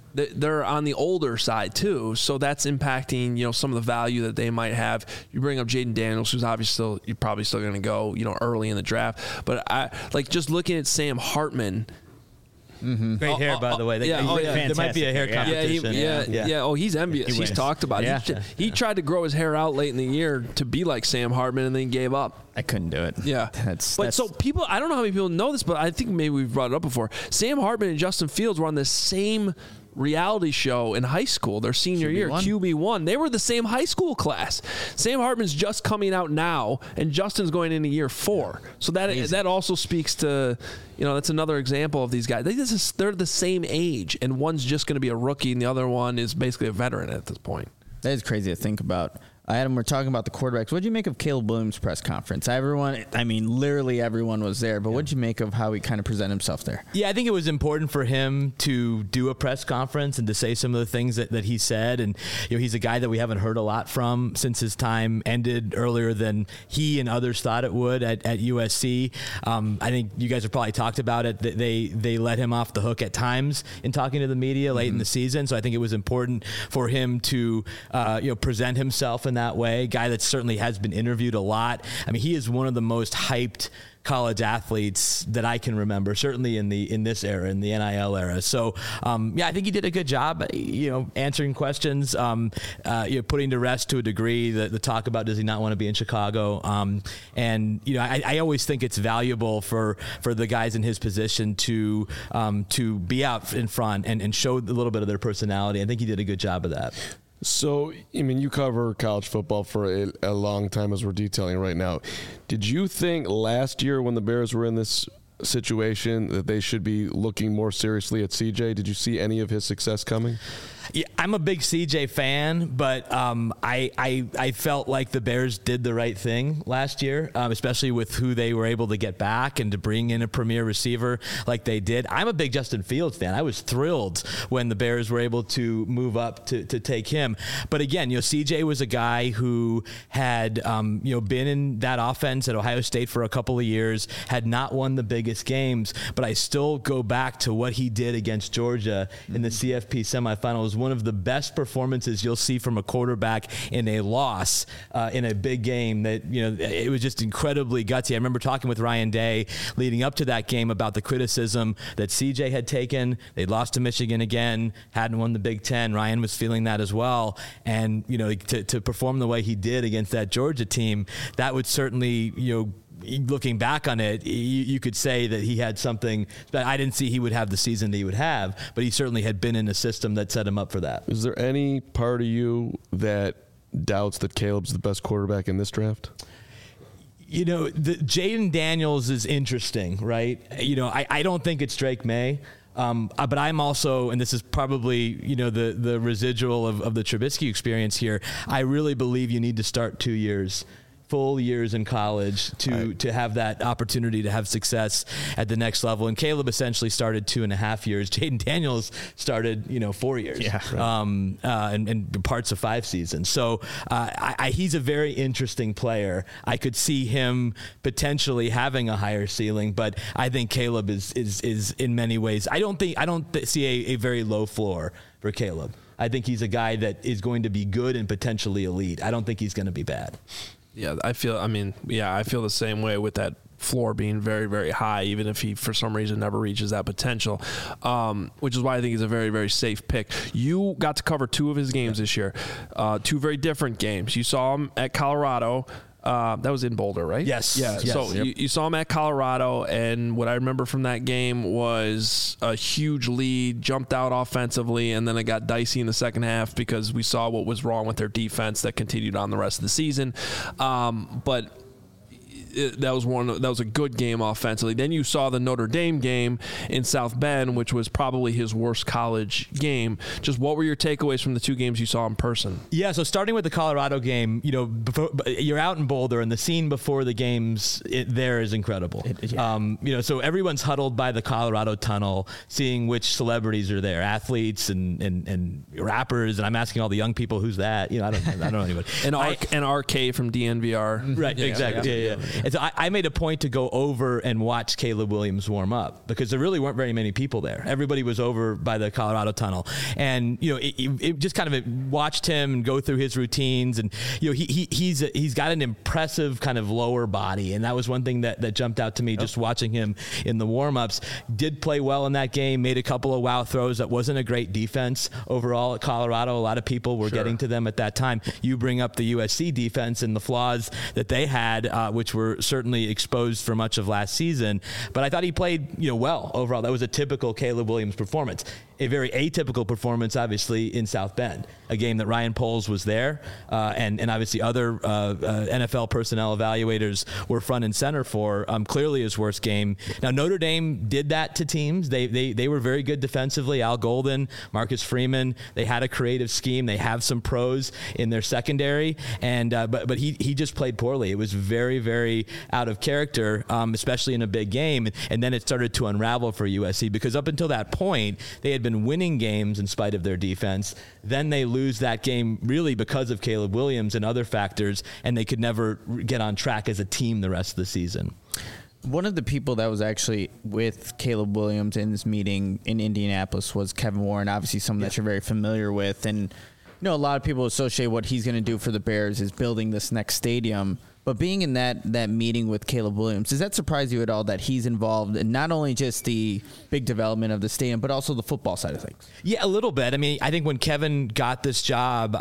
they're on the older side too, so that's impacting some of the value that they might have. You bring up Jaden Daniels, who's obviously you're probably still going to go early in the draft, but I like just looking at Sam Hartman. Mm-hmm. Great hair, by the way. There might be a hair competition. Yeah. Oh, he's envious. He's talked about it. He tried to grow his hair out late in the year to be like Sam Hartman, and then gave up. I couldn't do it. Yeah. So people, I don't know how many people know this, but I think maybe we've brought it up before. Sam Hartman and Justin Fields were on the same reality show in high school their senior year, QB1. They were the same high school class. Sam Hartman's just coming out now, and Justin's going into year 4. So that also speaks to, that's another example of these guys. They're the same age, and one's just going to be a rookie, and the other one is basically a veteran at this point. That is crazy to think about. Adam, we're talking about the quarterbacks. What did you make of Caleb Williams' press conference? Literally everyone was there, but what did you make of how he kind of presented himself there? Yeah, I think it was important for him to do a press conference and to say some of the things that he said. And, he's a guy that we haven't heard a lot from since his time ended earlier than he and others thought it would at USC. I think you guys have probably talked about it. That they let him off the hook at times in talking to the media late in the season. So I think it was important for him to, present himself in that way. Guy that certainly has been interviewed a lot. I mean, he is one of the most hyped college athletes that I can remember, certainly in this era, in the NIL era. So, I think he did a good job, answering questions, putting to rest to a degree the talk about does he not want to be in Chicago. I always think it's valuable for the guys in his position to be out in front and show a little bit of their personality. I think he did a good job of that. So, you cover college football for a long time, as we're detailing right now. Did you think last year when the Bears were in this situation that they should be looking more seriously at CJ? Did you see any of his success coming? Yeah, I'm a big CJ fan, but I felt like the Bears did the right thing last year, especially with who they were able to get back and to bring in a premier receiver like they did. I'm a big Justin Fields fan. I was thrilled when the Bears were able to move up to take him. But again, CJ was a guy who had been in that offense at Ohio State for a couple of years, had not won the biggest games, but I still go back to what he did against Georgia in the CFP semifinals. One of the best performances you'll see from a quarterback in a loss in a big game. That it was just incredibly gutsy. I remember talking with Ryan Day leading up to that game about the criticism that CJ had taken. They'd lost to Michigan again, hadn't won the Big Ten. Ryan was feeling that as well, and to perform the way he did against that Georgia team, that would certainly looking back on it, you could say that he had something that I didn't see he would have the season that he would have, but he certainly had been in a system that set him up for that. Is there any part of you that doubts that Caleb's the best quarterback in this draft? Jaden Daniels is interesting, right? I don't think it's Drake May. But I'm also, and this is probably, the residual of the Trubisky experience here, I really believe you need to start 2 years. Full years in college to have that opportunity to have success at the next level. And Caleb essentially started 2.5 years. Jaden Daniels started, 4 years. Yeah. Right. And parts of 5 seasons. So he's a very interesting player. I could see him potentially having a higher ceiling, but I think Caleb is in many ways. I don't see a very low floor for Caleb. I think he's a guy that is going to be good and potentially elite. I don't think he's going to be bad. Yeah, I feel the same way with that floor being very, very high, even if he, for some reason, never reaches that potential, which is why I think he's a very, very safe pick. You got to cover 2 of his games this year, 2 very different games. You saw him at Colorado. That was in Boulder, right? Yes. Yeah. Yes. So you saw him at Colorado, and what I remember from that game was a huge lead, jumped out offensively, and then it got dicey in the second half because we saw what was wrong with their defense that continued on the rest of the season. But that was a good game offensively. Then you saw the Notre Dame game in South Bend, which was probably his worst college game. Just what were your takeaways from the 2 games you saw in person? Yeah, so starting with the Colorado game, you're out in Boulder, and the scene before the games there is incredible. So everyone's huddled by the Colorado Tunnel, seeing which celebrities are there, athletes and rappers, and I'm asking all the young people, who's that? I don't know anybody. And RK from DNVR. Right, exactly. Yeah. And so I made a point to go over and watch Caleb Williams warm up because there really weren't very many people there. Everybody was over by the Colorado Tunnel, and it just kind of watched him go through his routines, and he's got an impressive kind of lower body, and that was one thing that jumped out to me just watching him in the warm-ups. Did play well in that game, made a couple of wow throws. That wasn't a great defense overall at Colorado. A lot of people were getting to them at that time. You bring up the USC defense and the flaws that they had, which were certainly exposed for much of last season, but I thought he played well overall. That was a typical Caleb Williams performance. A very atypical performance, obviously, in South Bend, a game that Ryan Poles was there, and obviously other NFL personnel evaluators were front and center for. Clearly his worst game. Now, Notre Dame did that to teams. They were very good defensively. Al Golden, Marcus Freeman, they had a creative scheme. They have some pros in their secondary, and but he just played poorly. It was very, very out of character, especially in a big game, and then it started to unravel for USC because up until that point, they had been winning games in spite of their defense. Then they lose that game really because of Caleb Williams and other factors, and they could never get on track as a team the rest of the season. One of the people that was actually with Caleb Williams in this meeting in Indianapolis was Kevin Warren, obviously someone that you're very familiar with. And a lot of people associate what he's going to do for the Bears is building this next stadium. But being in that meeting with Caleb Williams, does that surprise you at all that he's involved in not only just the big development of the stadium, but also the football side of things? Yeah, a little bit. I mean, I think when Kevin got this job,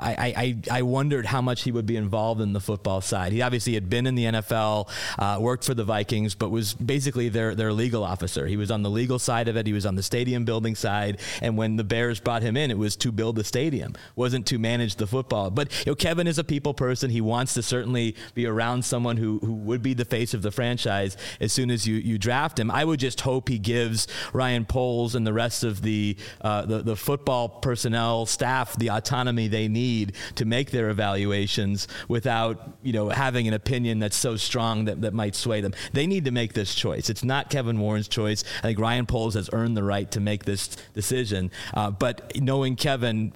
I wondered how much he would be involved in the football side. He obviously had been in the NFL, worked for the Vikings, but was basically their legal officer. He was on the legal side of it. He was on the stadium building side. And when the Bears brought him in, it was to build the stadium, wasn't to manage the football. But Kevin is a people person. He wants to certainly be around someone who would be the face of the franchise as soon as you draft him. I would just hope he gives Ryan Poles and the rest of the football personnel staff the autonomy they need to make their evaluations without having an opinion that's so strong that might sway them. They need to make this choice. It's not Kevin Warren's choice. I think Ryan Poles has earned the right to make this decision. But knowing Kevin,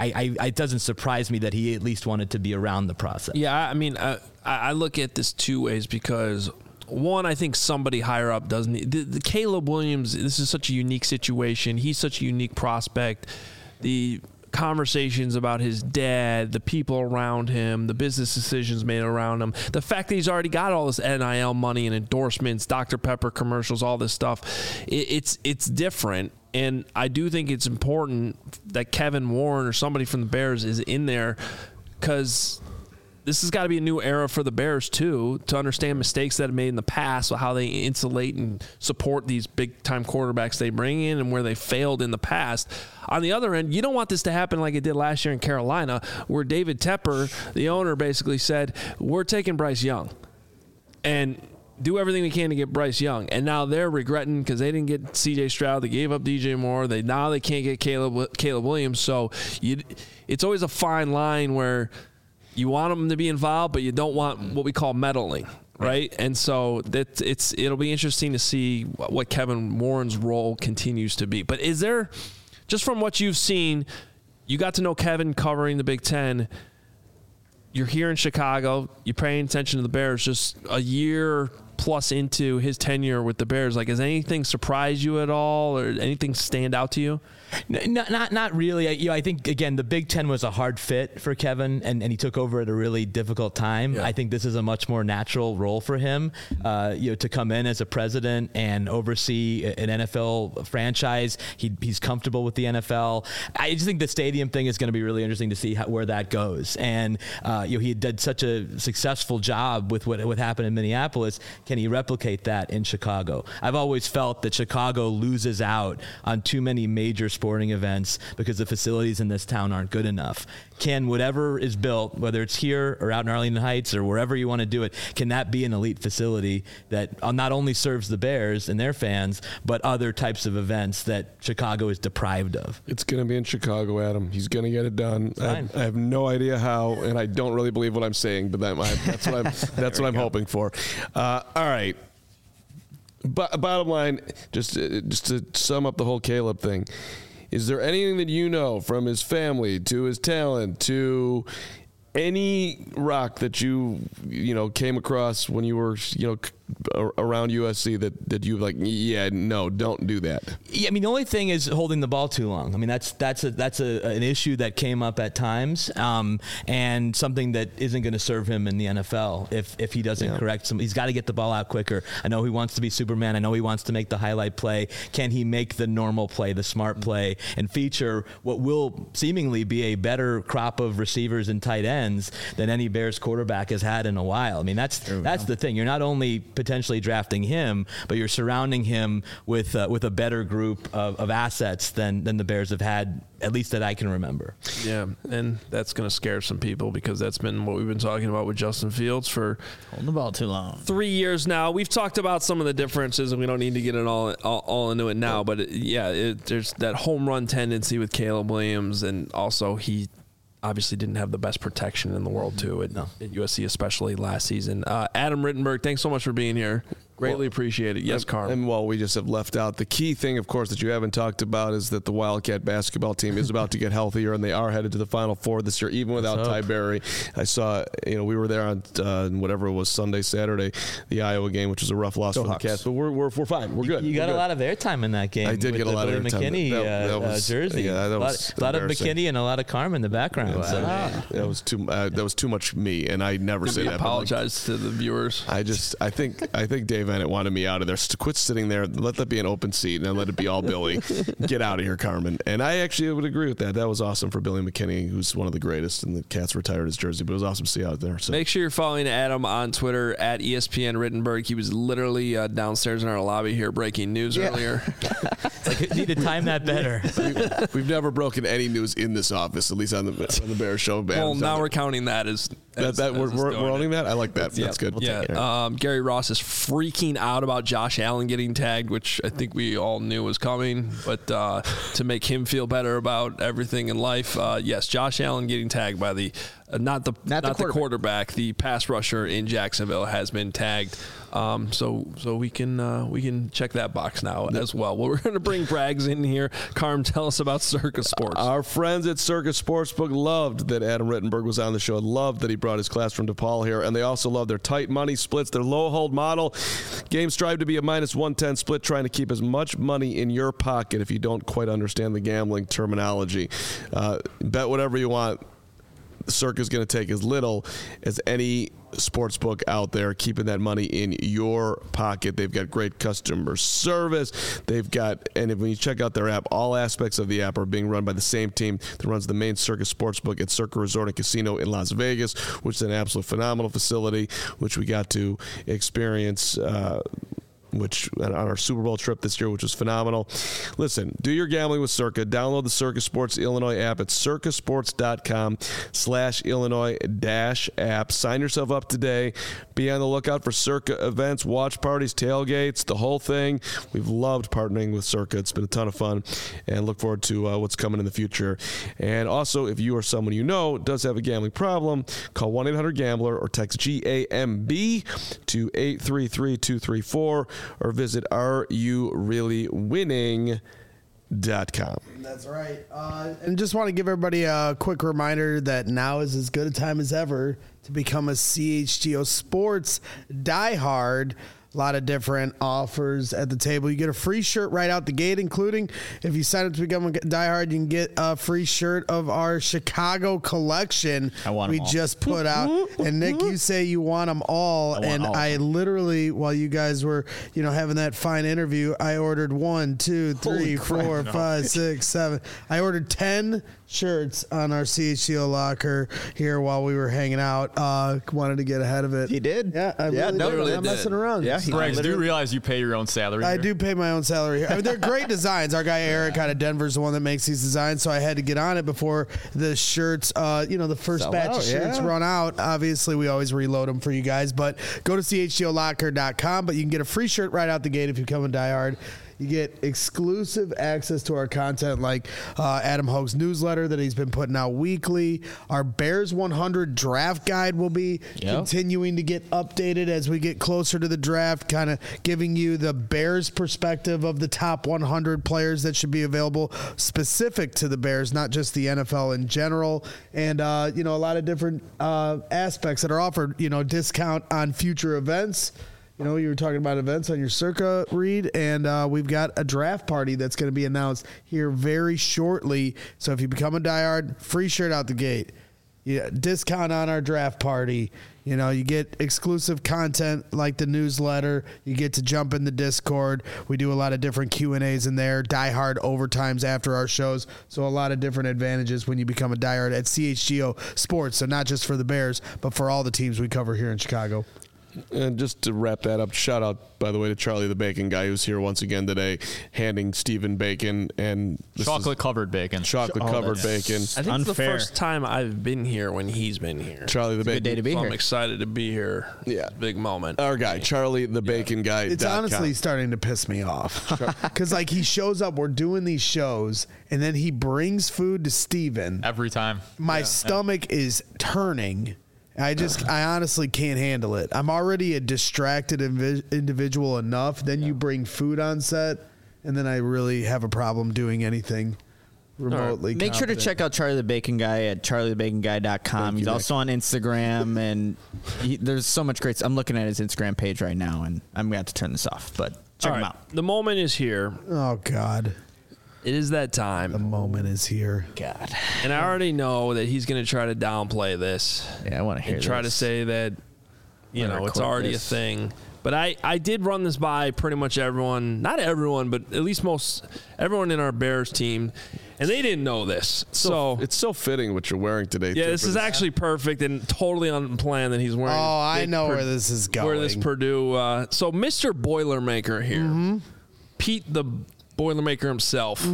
it doesn't surprise me that he at least wanted to be around the process. Yeah, I mean, I look at this two ways because, one, I think somebody higher up doesn't. The Caleb Williams, this is such a unique situation. He's such a unique prospect. The conversations about his dad, the people around him, the business decisions made around him, the fact that he's already got all this NIL money and endorsements, Dr. Pepper commercials, all this stuff, it's different. And I do think it's important that Kevin Warren or somebody from the Bears is in there because this has got to be a new era for the Bears, too, to understand mistakes that have made in the past, how they insulate and support these big-time quarterbacks they bring in and where they failed in the past. On the other end, you don't want this to happen like it did last year in Carolina, where David Tepper, the owner, basically said, we're taking Bryce Young. And do everything we can to get Bryce Young. And now they're regretting because they didn't get C.J. Stroud. They gave up DJ Moore. Now they can't get Caleb Williams. So it's always a fine line where – you want them to be involved, but you don't want what we call meddling, right? And so it'll be interesting to see what Kevin Warren's role continues to be. But is there, just from what you've seen, you got to know Kevin covering the Big Ten. You're here in Chicago. You're paying attention to the Bears just a year plus into his tenure with the Bears. Like, has anything surprised you at all or anything stand out to you? Not really. I think, again, the Big Ten was a hard fit for Kevin, and he took over at a really difficult time. Yeah. I think this is a much more natural role for him, to come in as a president and oversee an NFL franchise. He's comfortable with the NFL. I just think the stadium thing is going to be really interesting to see where that goes. And he did such a successful job with what happened in Minneapolis. Can he replicate that in Chicago? I've always felt that Chicago loses out on too many major sporting events because the facilities in this town aren't good enough. Can whatever is built, whether it's here or out in Arlington Heights or wherever you want to do it, can that be an elite facility that not only serves the Bears and their fans, but other types of events that Chicago is deprived of? It's going to be in Chicago, Adam. He's going to get it done. I have no idea how, and I don't really believe what I'm saying, but that's what I'm hoping for. All right. Bottom line, just to sum up the whole Caleb thing, is there anything that you know from his family to his talent to any rock that you came across when you were around USC that you like, yeah, no, don't do that? Yeah, I mean, the only thing is holding the ball too long. I mean, that's an issue that came up at times, and something that isn't going to serve him in the NFL if he doesn't correct some. He's got to get the ball out quicker. I know he wants to be Superman. I know he wants to make the highlight play. Can he make the normal play, the smart play, and feature what will seemingly be a better crop of receivers and tight ends than any Bears quarterback has had in a while? I mean, that's the thing. You're not only potentially drafting him, but you're surrounding him with a better group of assets than the Bears have had, at least that I can remember. Yeah, and that's going to scare some people because that's been what we've been talking about with Justin Fields for holding the ball too long. 3 years now. We've talked about some of the differences, and we don't need to get it all into it now. But there's that home run tendency with Caleb Williams, and also he obviously didn't have the best protection in the world too at USC, especially last season. Adam Rittenberg, thanks so much for being here. Greatly appreciate it. Yes, Carm. And while we just have left out the key thing, of course, that you haven't talked about is that the Wildcat basketball team is about to get healthier, and they are headed to the Final Four this year, even without Ty Berry. I saw, we were there on whatever it was, Sunday, Saturday, the Iowa game, which was a rough loss for the Cats, but we're fine. We're good. You got a lot of airtime in that game. I did get a lot of airtime. McKinney jersey. Yeah, that was a lot of McKinney and a lot of Carm in the background. That was too much me, and I never say that. Apologize to the viewers. I think Dave Bennett wanted me out of there. Quit sitting there. Let that be an open seat, and let it be all Billy. Get out of here, Carmen. And I actually would agree with that. That was awesome for Billy McKinney, who's one of the greatest, and the Cats retired his jersey, but it was awesome to see out there. So. Make sure you're following Adam on Twitter at ESPN Rittenberg. He was literally downstairs in our lobby here breaking news earlier. It's like, you need to time that better. We've never broken any news in this office, at least on the Bears show. Well, now we're counting that as we're owning that. I like that. Yeah. That's good. Gary Ross is freaking out about Josh Allen getting tagged, which I think we all knew was coming. But to make him feel better about everything in life, yes, Josh Allen getting tagged by the not the quarterback, the pass rusher in Jacksonville has been tagged. So we can check that box now as well. Well, we're going to bring Braggs in here. Carm, tell us about Circa Sports. Our friends at Circa Sportsbook loved that Adam Rittenberg was on the show. Loved that he brought his class from DePaul here, and they also love their tight money splits, their low hold model. Games strive to be a -110 split, trying to keep as much money in your pocket. If you don't quite understand the gambling terminology, bet whatever you want. Circa's going to take as little as any sports book out there, keeping that money in your pocket. They've got great customer service. And when you check out their app, all aspects of the app are being run by the same team that runs the main Circa Sportsbook at Circa Resort and Casino in Las Vegas, which is an absolute phenomenal facility, which we got to experience which on our Super Bowl trip this year, which was phenomenal. Listen, do your gambling with Circa. Download the Circa Sports Illinois app at circasports.com/Illinois-app. Sign yourself up today. Be on the lookout for Circa events, watch parties, tailgates, the whole thing. We've loved partnering with Circa. It's been a ton of fun, and look forward to what's coming in the future. And also, if you or someone you know does have a gambling problem, call 1-800-GAMBLER or text GAMB to 833-234. Or visit RUReallyWinning.com. That's right. And just want to give everybody a quick reminder that now is as good a time as ever to become a CHGO Sports diehard. A lot of different offers at the table. You get a free shirt right out the gate, including if you sign up to become a diehard, you can get a free shirt of our Chicago collection we just put out. And Nick, you say you want them all. I literally, while you guys were, having that fine interview, I ordered 1, 2, 3, 4, 5, 6, 7. I ordered 10 shirts on our CHGO locker here while we were hanging out. Wanted to get ahead of it. He did? Yeah, I'm not messing around. Yeah, Braggs, do you realize you pay your own salary? I do pay my own salary here. I mean, they're great designs. Our guy Eric out of Denver is the one that makes these designs, so I had to get on it before the shirts, the first batch of shirts run out. Obviously, we always reload them for you guys, but go to CHGOlocker.com, but you can get a free shirt right out the gate if you become a diehard. You get exclusive access to our content like Adam Hogue's newsletter that he's been putting out weekly. Our Bears 100 draft guide will be continuing to get updated as we get closer to the draft, kind of giving you the Bears perspective of the top 100 players that should be available specific to the Bears, not just the NFL in general. And, a lot of different aspects that are offered, discount on future events. You were talking about events on your Circa read, and we've got a draft party that's going to be announced here very shortly. So if you become a diehard, free shirt out the gate. Discount on our draft party. You get exclusive content like the newsletter. You get to jump in the Discord. We do a lot of different Q&As in there, diehard overtimes after our shows. So a lot of different advantages when you become a diehard at CHGO Sports. So not just for the Bears, but for all the teams we cover here in Chicago. And just to wrap that up, shout out, by the way, to Charlie the Bacon Guy, who's here once again today, handing Stephen bacon and chocolate-covered bacon. Chocolate-covered bacon. I think it's the first time I've been here when he's been here. Charlie the Bacon. Good day to be here. I'm excited to be here. Yeah. Big moment. Our guy, Charlie the Bacon Guy. It's honestly starting to piss me off. Because, he shows up, we're doing these shows, and then he brings food to Stephen. Every time. My stomach is turning. I honestly can't handle it. I'm already a distracted individual enough. Then you bring food on set, and then I really have a problem doing anything remotely. Make sure to check out Charlie the Bacon Guy at charliethebaconguy.com. He's also on Instagram, and there's so much great stuff. I'm looking at his Instagram page right now, and I'm going to have to turn this off, but check him out. The moment is here. Oh, God. It is that time. The moment is here. God. And I already know that he's going to try to downplay this. Yeah, I want to hear and try to say that, it's already a thing. But I did run this by pretty much everyone. Not everyone, but at least everyone in our Bears team. And they didn't know this. So it's so fitting what you're wearing today. Yeah, this is actually perfect and totally unplanned that he's wearing. Oh, I know where this is going. Where this Purdue. So Mr. Boilermaker here. Pete the Boilermaker himself.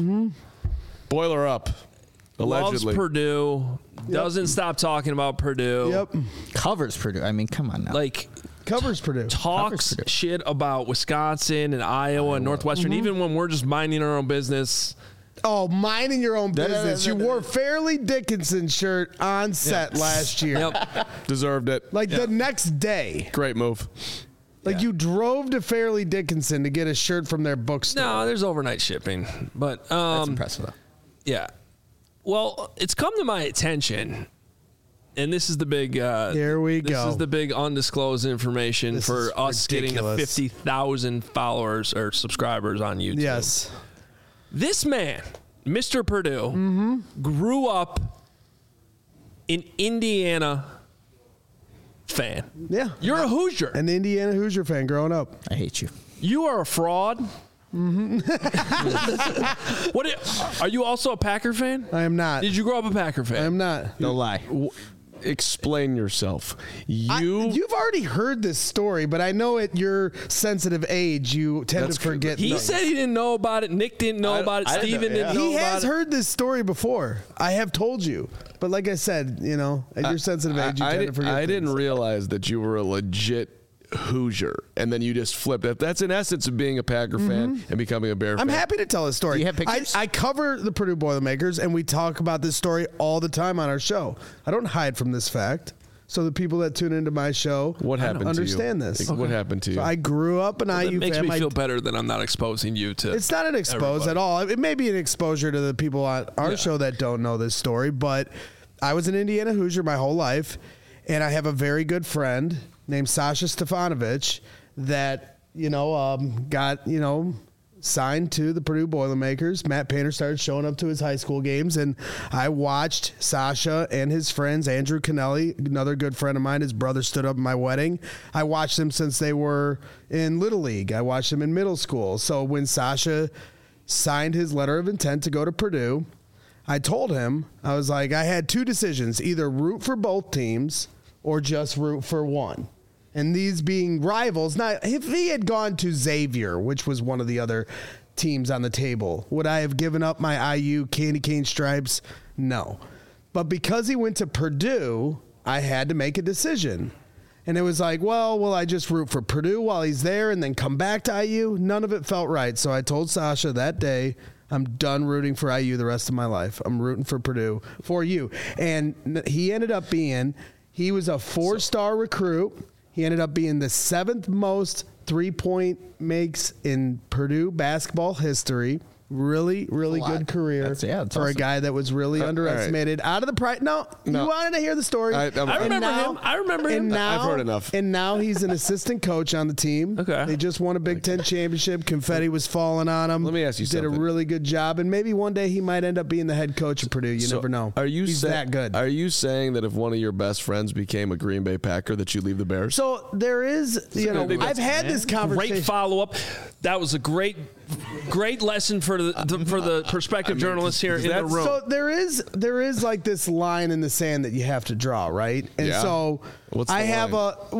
Boiler up. Allegedly. Loves Purdue. Doesn't stop talking about Purdue. Yep. Covers Purdue. I mean, come on now. Covers Purdue. Talks shit about Wisconsin and Iowa and Northwestern, even when we're just minding our own business. Oh, minding your own business. You wore Fairleigh Dickinson shirt on set last year. Yep. Deserved it. The next day. Great move. You drove to Fairleigh Dickinson to get a shirt from their bookstore. No, there's overnight shipping. But that's impressive, though. Yeah. Well, it's come to my attention, and this is the big here we go. This is the big undisclosed information for us getting to 50,000 followers or subscribers on YouTube. Yes. This man, Mr. Purdue, grew up in Indiana fan. Yeah. You're a Hoosier. An Indiana Hoosier fan growing up. I hate you. You are a fraud. Are you also a Packer fan? I am not. Did you grow up a Packer fan? I am not. No lie. Explain yourself. You've already heard this story, but I know at your sensitive age, you tend to forget. He said he didn't know about it. Nick didn't know about it. Steven didn't know about it. He has heard this story before. I have told you. But like I said, at your sensitive age, you tend to forget. I didn't realize that you were a legit Hoosier, and then you just flipped it. That's in essence of being a Packer fan and becoming a Bear fan. I'm happy to tell a story. Do you have pictures? I cover the Purdue Boilermakers, and we talk about this story all the time on our show. I don't hide from this fact. So the people that tune into my show understand this. What happened to you? So I grew up an IU fan. It makes me feel better that I'm not exposing you to. It's not an expose at all. It may be an exposure to the people on our show that don't know this story, but I was an Indiana Hoosier my whole life, and I have a very good friend named Sasha Stefanovic that, got, signed to the Purdue Boilermakers. Matt Painter started showing up to his high school games, and I watched Sasha and his friends, Andrew Kennelly, another good friend of mine. His brother stood up at my wedding. I watched them since they were in Little League. I watched them in middle school. So when Sasha signed his letter of intent to go to Purdue, I told him, I was like, I had two decisions, either root for both teams or just root for one. And these being rivals, not if he had gone to Xavier, which was one of the other teams on the table, would I have given up my IU candy cane stripes? No. But because he went to Purdue, I had to make a decision. And it was like, well, will I just root for Purdue while he's there and then come back to IU? None of it felt right. So I told Sasha that day, I'm done rooting for IU the rest of my life. I'm rooting for Purdue for you. And he ended up being, he was a 4-star recruit. He ended up being the 7th most 3-point makes in Purdue basketball history. Really, really good career for awesome. A guy that was really underestimated. Right. Out of the price. No, you wanted to hear the story. I remember him. I've heard enough. And now he's an assistant coach on the team. Okay. They just won a Big Ten championship. Confetti was falling on him. Let me ask you something. Did a really good job. And maybe one day he might end up being the head coach of Purdue. You never know. He's that good. Are you saying that if one of your best friends became a Green Bay Packer that you leave the Bears? So there is, I've had this conversation. Great follow-up. That was a great lesson for the prospective journalists here in the room. So there is like this line in the sand that you have to draw, right? And so I have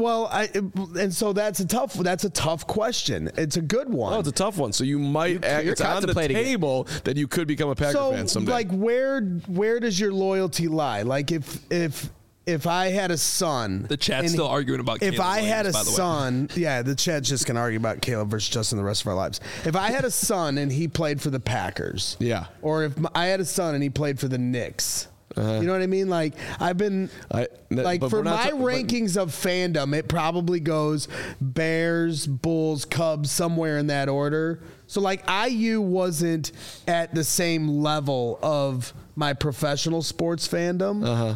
and so that's a tough question. It's a good one. Oh, it's a tough one. So you might it's on the table that you could become a Packer fan someday. Like where does your loyalty lie? Like if I had a son, the chat's still arguing about Caleb if I Williams, had a son, the chat's just gonna argue about Caleb versus Justin the rest of our lives. If I had a son and he played for the Packers, or if I had a son and he played for the Knicks, you know what I mean? Like I've been for my rankings of fandom, it probably goes Bears, Bulls, Cubs, somewhere in that order. So like IU wasn't at the same level of my professional sports fandom.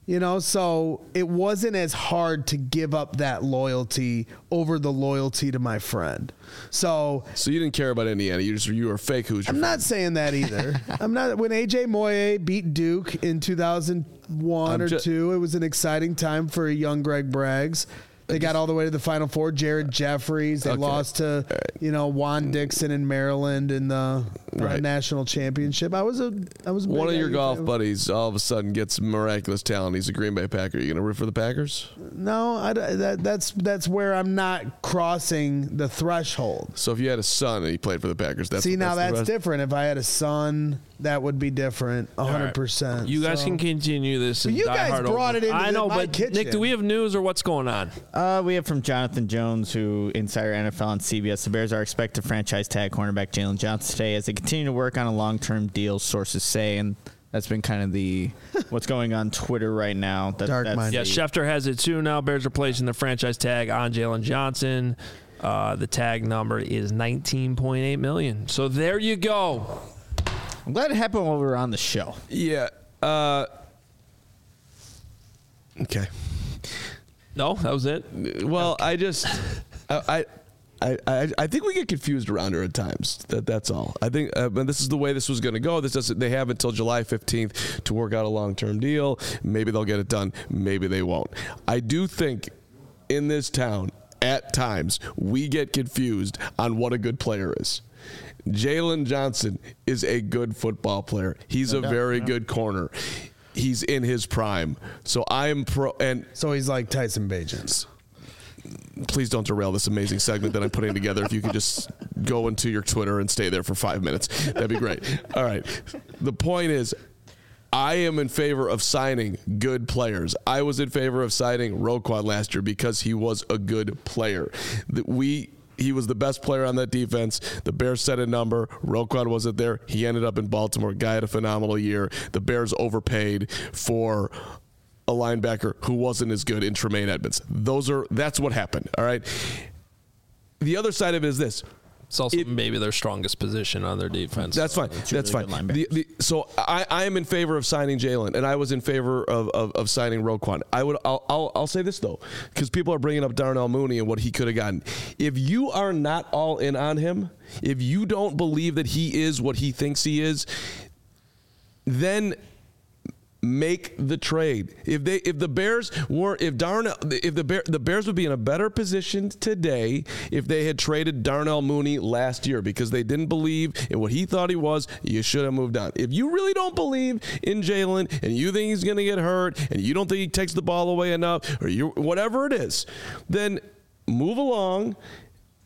So it wasn't as hard to give up that loyalty over the loyalty to my friend. So you didn't care about Indiana. You were a fake Hoosier. I'm not saying that either. I'm not. When AJ Moye beat Duke in 2001 or 2, it was an exciting time for a young Greg Braggs. They got all the way to the Final Four. Jared Jeffries. They lost to, Juan Dixon in Maryland in the national championship. I was one of your golf buddies. All of a sudden gets miraculous talent. He's a Green Bay Packer. Are you going to root for the Packers? No, that's where I'm not crossing the threshold. So if you had a son and he played for the Packers, that's different. If I had a son, that would be different, 100%. Right. You guys can continue this. You guys brought it into my kitchen. Nick, do we have news or what's going on? We have from Jonathan Jones, who Insider NFL on CBS. The Bears are expected to franchise tag cornerback Jalen Johnson today as they continue to work on a long-term deal, sources say, and that's been kind of the what's going on Twitter right now. Schefter has it too now. Bears are placing the franchise tag on Jalen Johnson. The tag number is $19.8 million. So there you go. I'm glad it happened while we were on the show. Yeah. Okay. No, that was it. Well, okay. I think we get confused around here at times. That's all. I think this is the way this was going to go. They have until July 15th to work out a long-term deal. Maybe they'll get it done. Maybe they won't. I do think in this town, at times, we get confused on what a good player is. Jalen Johnson is a good football player. He's a very good corner. He's in his prime. So I am so he's like Tyson Bagent. Please don't derail this amazing segment that I'm putting together. If you could just go into your Twitter and stay there for 5 minutes, that'd be great. All right. The point is, I am in favor of signing good players. I was in favor of signing Roquan last year because he was a good player. He was the best player on that defense. The Bears set a number. Roquan wasn't there. He ended up in Baltimore. Guy had a phenomenal year. The Bears overpaid for a linebacker who wasn't as good in Tremaine Edmonds. That's what happened. All right. The other side of it is this. It's also maybe their strongest position on their defense. That's fine. That's fine. So I am in favor of signing Jalen, and I was in favor of signing Roquan. I'll say this though, because people are bringing up Darnell Mooney and what he could have gotten. If you are not all in on him, if you don't believe that he is what he thinks he is, then make the trade. The Bears would be in a better position today if they had traded Darnell Mooney last year, because they didn't believe in what he thought he was. You should have moved on. If you really don't believe in Jalen and you think he's going to get hurt and you don't think he takes the ball away enough, or whatever it is, then move along.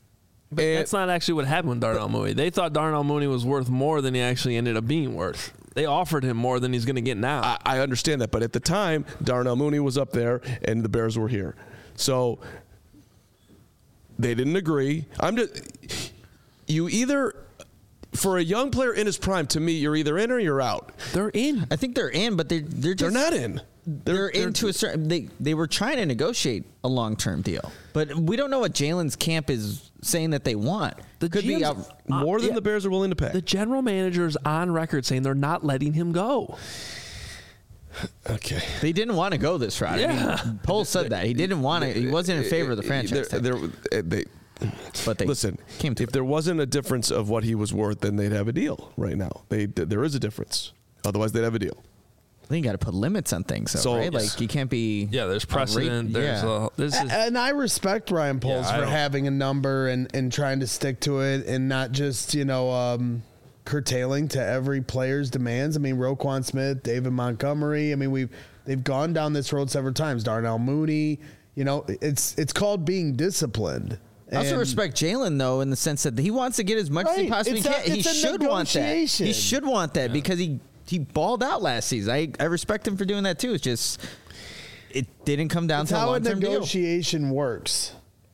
But that's not actually what happened with Darnell Mooney. They thought Darnell Mooney was worth more than he actually ended up being worth. They offered him more than he's going to get now. I understand that, but at the time, Darnell Mooney was up there and the Bears were here. So they didn't agree. You either, for a young player in his prime, to me, you're either in or you're out. They're in. I think they're in, but they're not in. They're into a certain. They were trying to negotiate a long-term deal, but we don't know what Jalen's camp is saying that they want. The Could be out more than the Bears are willing to pay. The general manager's on record saying they're not letting him go. Okay. They didn't want to go this route. Yeah. I mean, Poles said that he didn't want to. He wasn't in favor of the franchise. But listen. If there wasn't a difference of what he was worth, then they'd have a deal right now. There is a difference. Otherwise, they'd have a deal. I think you got to put limits on things, though, right? Like you can't be. Yeah, there's precedent. And I respect Ryan Poles for having a number and trying to stick to it and not just curtailing to every player's demands. I mean, Roquan Smith, David Montgomery. I mean, they've gone down this road several times. Darnell Mooney. It's called being disciplined. I also respect Jalen, though, in the sense that he wants to get as much as he possibly can. He should want that. He should want that because he balled out last season. I respect him for doing that, too. It's just it didn't come down to a long-term deal. How a negotiation works.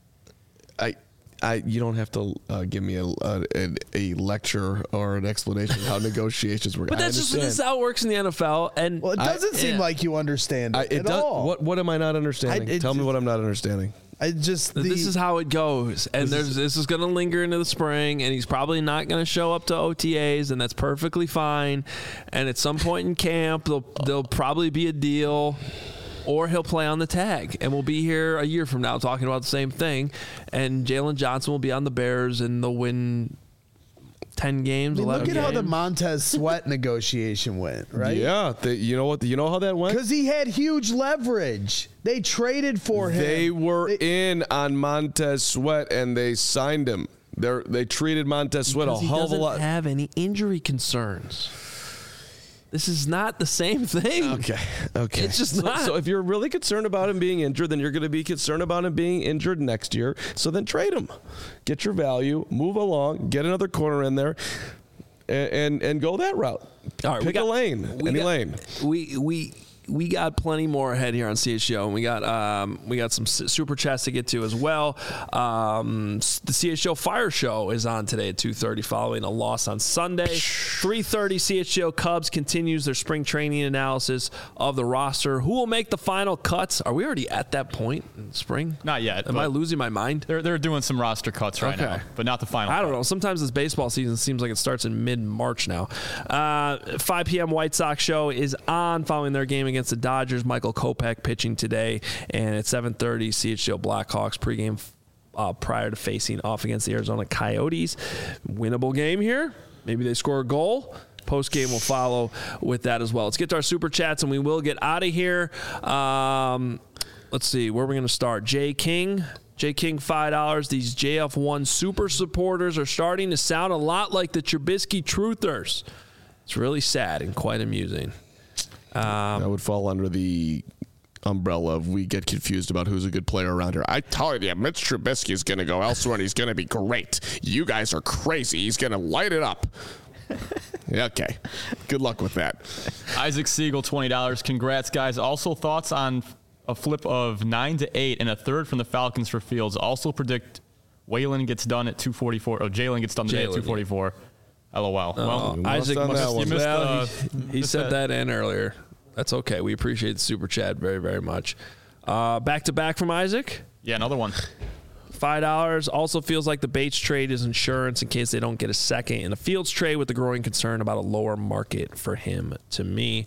You don't have to give me a lecture or an explanation of how negotiations work. But this is how it works in the NFL. And it doesn't seem like you understand it at all. What am I not understanding? Tell me what I'm not understanding. This is how it goes, and this is going to linger into the spring, and he's probably not going to show up to OTAs, and that's perfectly fine. And at some point in camp, there'll probably be a deal, or he'll play on the tag, and we'll be here a year from now talking about the same thing. And Jalen Johnson will be on the Bears, and they'll win 10 games, 11 games. Look at how the Montez Sweat negotiation went, right? Yeah. You know what? You know how that went? Because he had huge leverage. They traded for him. They were in on Montez Sweat, and they signed him. They treated Montez Sweat a hell of a lot. He doesn't have any injury concerns. This is not the same thing. Okay. It's just not. So if you're really concerned about him being injured, then you're going to be concerned about him being injured next year. So then trade him. Get your value. Move along. Get another corner in there, and go that route. All right, Pick a lane. Any lane. We got plenty more ahead here on CHGO, and we got some super chats to get to as well. The CHGO Fire Show is on today at 2:30 following a loss on Sunday. 3:30 CHGO Cubs continues their spring training analysis of the roster. Who will make the final cuts? Are we already at that point in spring? Not yet. Am I losing my mind? They're doing some roster cuts right now, but not the final. I don't know. Sometimes this baseball season seems like it starts in mid-March now. 5 p.m. White Sox show is on following their game against the Dodgers. Michael Kopech pitching today, and at 7:30 CHGO Blackhawks pregame prior to facing off against the Arizona Coyotes. Winnable game here. Maybe they score a goal. Post-game will follow with that as well. Let's get to our super chats, and we will get out of here. Let's see, where are we going to start? Jay King, $5. These JF1 super supporters are starting to sound a lot like the Trubisky truthers. It's really sad and quite amusing. That would fall under the umbrella of we get confused about who's a good player around here. I told you, Mitch Trubisky is going to go elsewhere, and he's going to be great. You guys are crazy. He's going to light it up. Okay. Good luck with that. Isaac Siegel, $20. Congrats, guys. Also, thoughts on a flip of 9 to 8 and a third from the Falcons for Fields. Also predict Waylon gets done at 244. Jalen gets done today at 244. LOL. Well, Isaac he said that in earlier. That's okay. We appreciate the super chat very, very much. Back to back from Isaac. Yeah, another one. $5. Also feels like the Bates trade is insurance in case they don't get a second in a Fields trade, with the growing concern about a lower market for him. To me,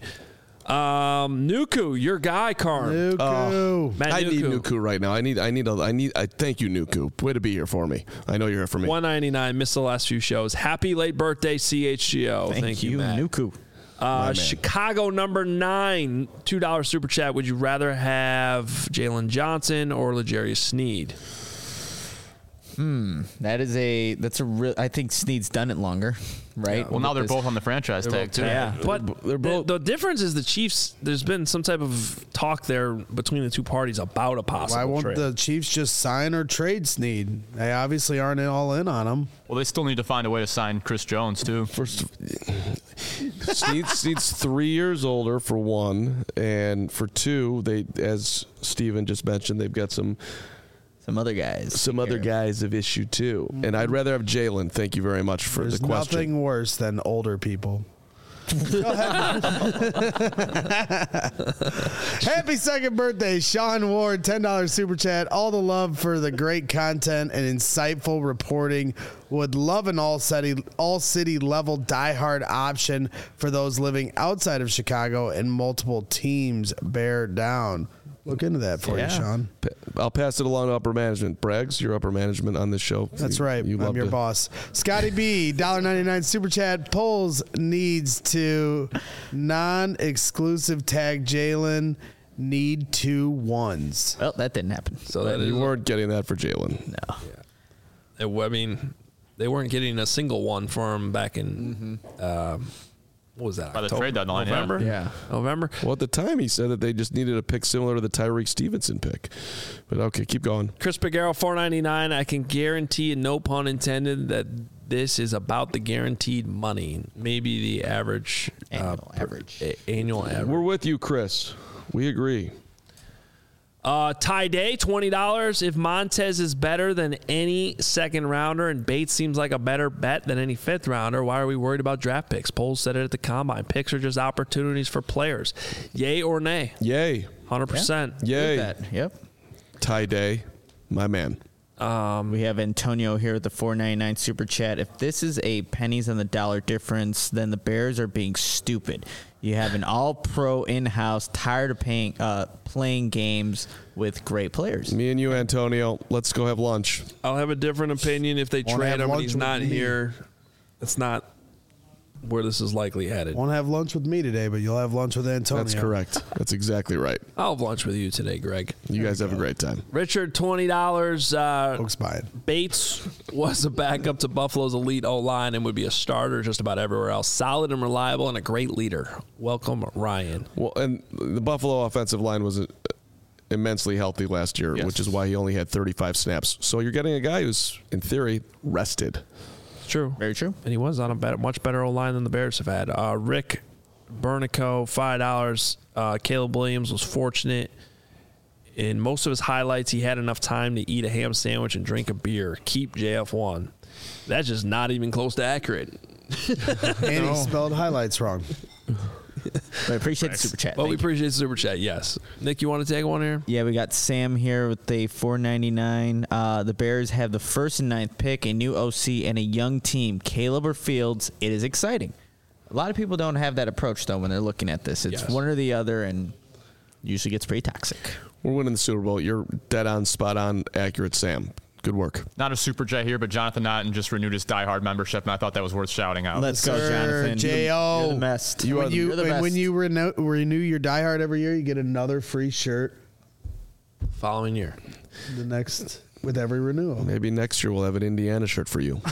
Nuku, your guy, Carm. I need Nuku right now. I thank you, Nuku. Way to be here for me. I know you're here for me. $1.99. Missed the last few shows. Happy late birthday, CHGO. Thank you, Matt. Nuku. Chicago number 9, $2 super chat. Would you rather have Jalen Johnson or L'Jarius Sneed? That's a real. I think Snead's done it longer, right? Yeah. Well, now they're both on the franchise tag too. Yeah, but they're both. The difference is the Chiefs. There's been some type of talk there between the two parties about a possible trade. Why won't trade. the Chiefs just sign or trade Snead? They obviously aren't all in on him. Well, they still need to find a way to sign Chris Jones too. First, Snead's 3 years older for one, and for two, they, as Steven just mentioned, they've got some other guys. Some other guys have issue too, and I'd rather have Jalen. Thank you very much for There's the question. nothing worse than older people. Happy second birthday, Sean Ward, $10 super chat. All the love for the great content and insightful reporting. Would love an all city level diehard option for those living outside of Chicago and multiple teams bear down. Look into that for you, Sean. I'll pass it along to upper management. Braggs, you're upper management on this show. That's right. I'm your boss. Scotty B, $1.99 super chat. Polls needs to non-exclusive tag Jalen. Need 2 ones. Well, that didn't happen. So that you weren't getting that for Jalen. No. I mean, they weren't getting a single one for him back in. What was that? By the trade deadline, November? Yeah. November? Well, at the time, he said that they just needed a pick similar to the Tyreek Stevenson pick. But okay, keep going. Chris Pagaro, $4.99. I can guarantee, and no pun intended, that this is about the guaranteed money. Maybe the average. Annual average. Annual average. We're with you, Chris. We agree. Ty Day, $20. If Montez is better than any second rounder and Bates seems like a better bet than any fifth rounder, why are we worried about draft picks? Polls said it at the combine. Picks are just opportunities for players. Yay or nay? Yay. 100%. Yay. Yep. Ty Day, my man. We have Antonio here with the $4.99 super chat. If this is a pennies on the dollar difference, then the Bears are being stupid. You have an all-pro in-house, tired of playing games with great players. Me and you, Antonio, let's go have lunch. I'll have a different opinion if they trade him and he's not here. It's not where this is likely headed. Won't have lunch with me today, but you'll have lunch with Antonio. That's correct. That's exactly right. I'll have lunch with you today, Greg. You guys have a great time. Richard, $20. Folks buy it. Bates was a backup to Buffalo's elite O-line and would be a starter just about everywhere else. Solid and reliable and a great leader. Welcome, Ryan. Well, and the Buffalo offensive line was immensely healthy last year, which is why he only had 35 snaps. So you're getting a guy who's, in theory, rested. True. Very true. And he was on a much better O-line than the Bears have had. Rick Bernico, $5. Caleb Williams was fortunate. In most of his highlights, he had enough time to eat a ham sandwich and drink a beer. Keep JF1. That's just not even close to accurate. And he spelled highlights wrong. I appreciate the super chat. Well, we appreciate the super chat, yes. Nick, you want to take one here? Yeah, we got Sam here with the $4.99. The Bears have the 1st and 9th pick, a new OC, and a young team. Caleb or Fields. It is exciting. A lot of people don't have that approach, though, when they're looking at this. It's one or the other, and usually gets pretty toxic. We're winning the Super Bowl. You're dead on, spot on, accurate, Sam. Good work. Not a super chat here, but Jonathan Naughton just renewed his diehard membership, and I thought that was worth shouting out. Let's go, Jonathan. J.O. You're the best. When you best. renew your diehard every year, you get another free shirt. Following year. The next with every renewal. Maybe next year we'll have an Indiana shirt for you.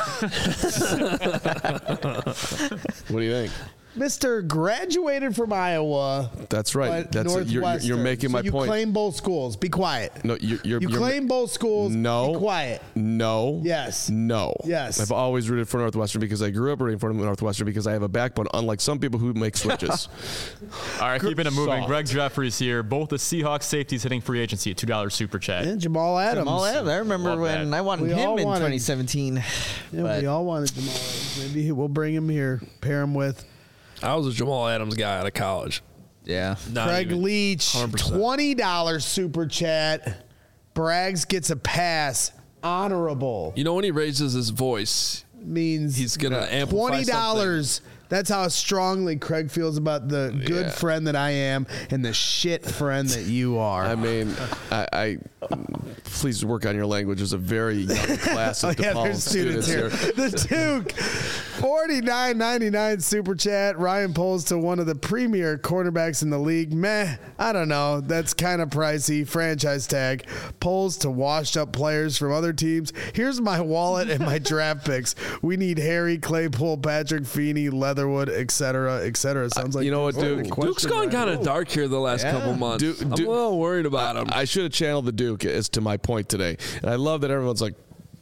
What do you think? Mr. graduated from Iowa. That's right. That's you're making my you point. You claim both schools. Be quiet. No, you claim both schools. No. Be quiet. No. Yes. No. Yes. I've always rooted for Northwestern because I grew up rooting for Northwestern because I have a backbone, unlike some people who make switches. All right, keeping it moving. Soft. Greg Jeffries here. Both the Seahawks safeties hitting free agency at $2 super chat. And Jamal Adams. I remember Love when that. I wanted We him all in wanted- 2017. Yeah, we all wanted Jamal Adams. Maybe we'll bring him here. Pair him with I was a Jamal Adams guy out of college. Yeah. Not Craig even Leach. 100%. $20 super chat. Braggs gets a pass. Honorable. You know, when he raises his voice, Means he's going to amplify $20. That's how strongly Craig feels about the good friend that I am and the shit friend that you are. I mean, I please work on your language. There's a very young class of DePaul there's students here. here. The Duke, $49.99 super chat. Ryan Poles to one of the premier cornerbacks in the league. Meh, I don't know. That's kind of pricey. Franchise tag. Poles to washed up players from other teams. Here's my wallet and my draft picks. We need Harry, Claypool, Patrick Feeney, Leatherwood, etc., etc. Sounds like You know what, Duke? Duke's gone kind of dark here the last couple months. I'm a little worried about him. I should have channeled the Duke as to my point today. And I love that everyone's like,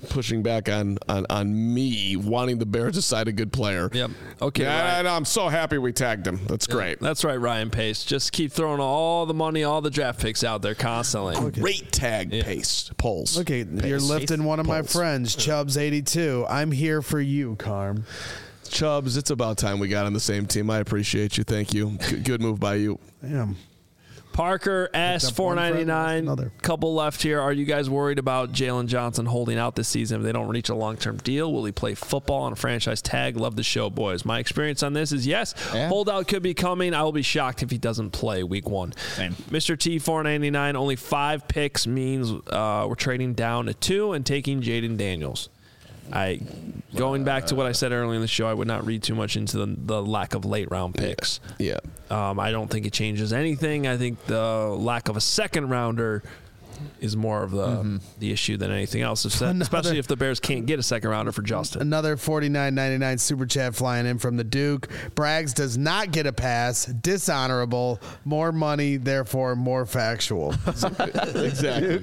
pushing back on me wanting the Bears to sign a good player. Yep. Okay. And I'm so happy we tagged him. That's great. That's right, Ryan Pace. Just keep throwing all the money, all the draft picks out there constantly. Great tag, Pace. Polls. Okay, Pace. you're lifting one of my friends, Chubbs82. I'm here for you, Carm. Chubbs, it's about time we got on the same team. I appreciate you. Thank you. Good move by you. Damn. Parker S. $4.99. Couple left here. Are you guys worried about Jalen Johnson holding out this season if they don't reach a long-term deal? Will he play football on a franchise tag? Love the show, boys. My experience on this is yes. Yeah. Holdout could be coming. I will be shocked if he doesn't play week 1. Same. Mr. T, $4.99. Only 5 picks means we're trading down to 2 and taking Jaden Daniels. Going back to what I said earlier in the show, I would not read too much into the lack of late round picks. Yeah. I don't think it changes anything. I think the lack of a second rounder is more of the issue than anything else, especially if the Bears can't get a second rounder for Justin. Another $49.99 super chat flying in from the Duke. Braggs does not get a pass. Dishonorable. More money, therefore more factual. Exactly.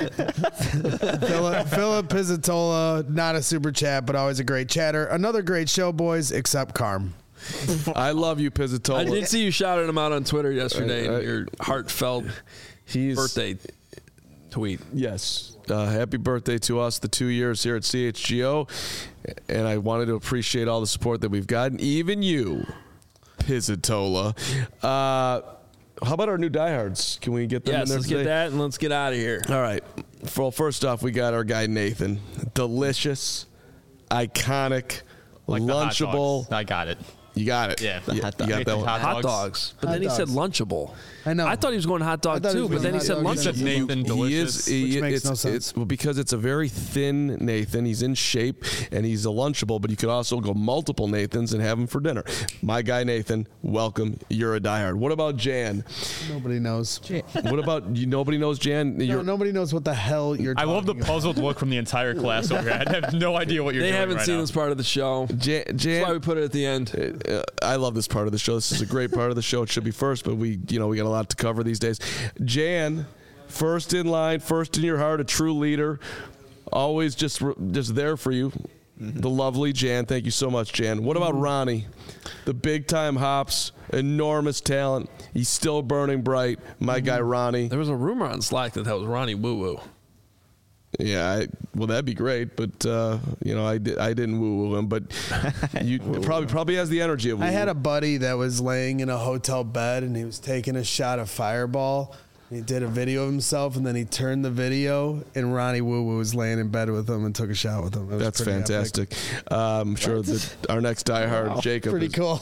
Philip Pizzatola, not a super chat, but always a great chatter. Another great show, boys, except Carm. I love you, Pizzatola. I did see you shouting him out on Twitter yesterday in your heartfelt birthday tweet. Yes. Happy birthday to us, the 2 years here at CHGO. And I wanted to appreciate all the support that we've gotten. Even you, Pizzatola. How about our new diehards? Can we get them in there let's today? Get that and let's get out of here. All right. Well, first off, we got our guy Nathan. Delicious, iconic, like lunchable. I got it. You got it. Yeah. You got that one. Hot dogs. But then he said lunchable. I know. I thought he was going hot dog too, but then he said lunchable. Nathan Delicious. Which makes no sense. Because it's a very thin Nathan. He's in shape, and he's a lunchable, but you could also go multiple Nathans and have him for dinner. My guy Nathan, welcome. You're a diehard. What about Jan? Nobody knows. What about you? Nobody knows Jan? No, nobody knows what the hell you're talking I love the about. puzzled look from the entire class over here. I have no idea what you're doing. They haven't right seen now. this part of the show. Jan, that's why we put it at the end. I love this part of the show. This is a great part of the show. It should be first, but we got a lot to cover these days. Jan, first in line, first in your heart, a true leader, always just there for you. The lovely Jan. Thank you so much, Jan. What about Ronnie? The big-time hops, enormous talent. He's still burning bright. My guy Ronnie. There was a rumor on Slack that was Ronnie Woo Woo. Yeah, well, that'd be great, but I didn't woo him, but you probably has the energy of woo. I had a buddy that was laying in a hotel bed and he was taking a shot of Fireball. He did a video of himself, and then he turned the video, and Ronnie Woo Woo was laying in bed with him and took a shot with him. That's fantastic. I'm sure that our next diehard, Jacob, pretty cool.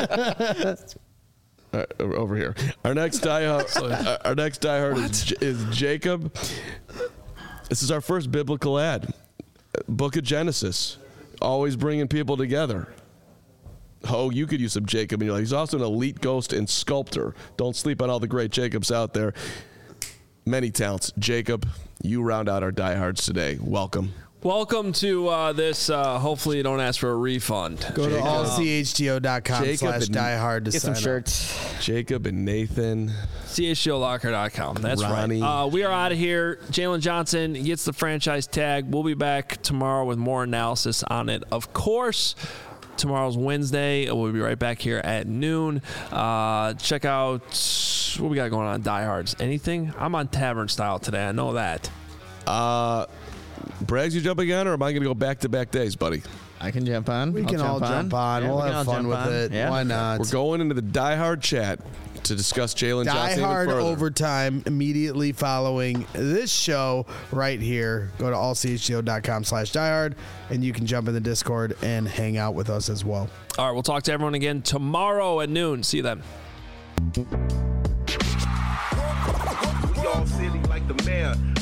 Over here, our next diehard is Jacob. This is our first biblical ad. Book of Genesis, always bringing people together. Oh, you could use some Jacob in your life. He's also an elite ghost and sculptor. Don't sleep on all the great Jacobs out there. Many talents. Jacob, you round out our diehards today. Welcome. Welcome to this. Hopefully you don't ask for a refund. Go to allchgo.com/diehard to get some shirts. Jacob and Nathan. CHGOlocker.com. That's Ronnie. right. We are out of here. Jalen Johnson gets the franchise tag. We'll be back tomorrow with more analysis on it. Of course, tomorrow's Wednesday. We'll be right back here at noon. Check out what we got going on Diehards. Anything? I'm on Tavern Style today. I know that. Braggs, you jumping on, or am I going to go back-to-back days, buddy? I can jump on. We can all jump on. We'll have fun with it. Yeah. Why not? We're going into the diehard chat to discuss Jalen Johnson even Diehard further. overtime immediately following this show right here. Go to allchgo.com/diehard, and you can jump in the Discord and hang out with us as well. All right, we'll talk to everyone again tomorrow at noon. See you then. We all silly like the mayor.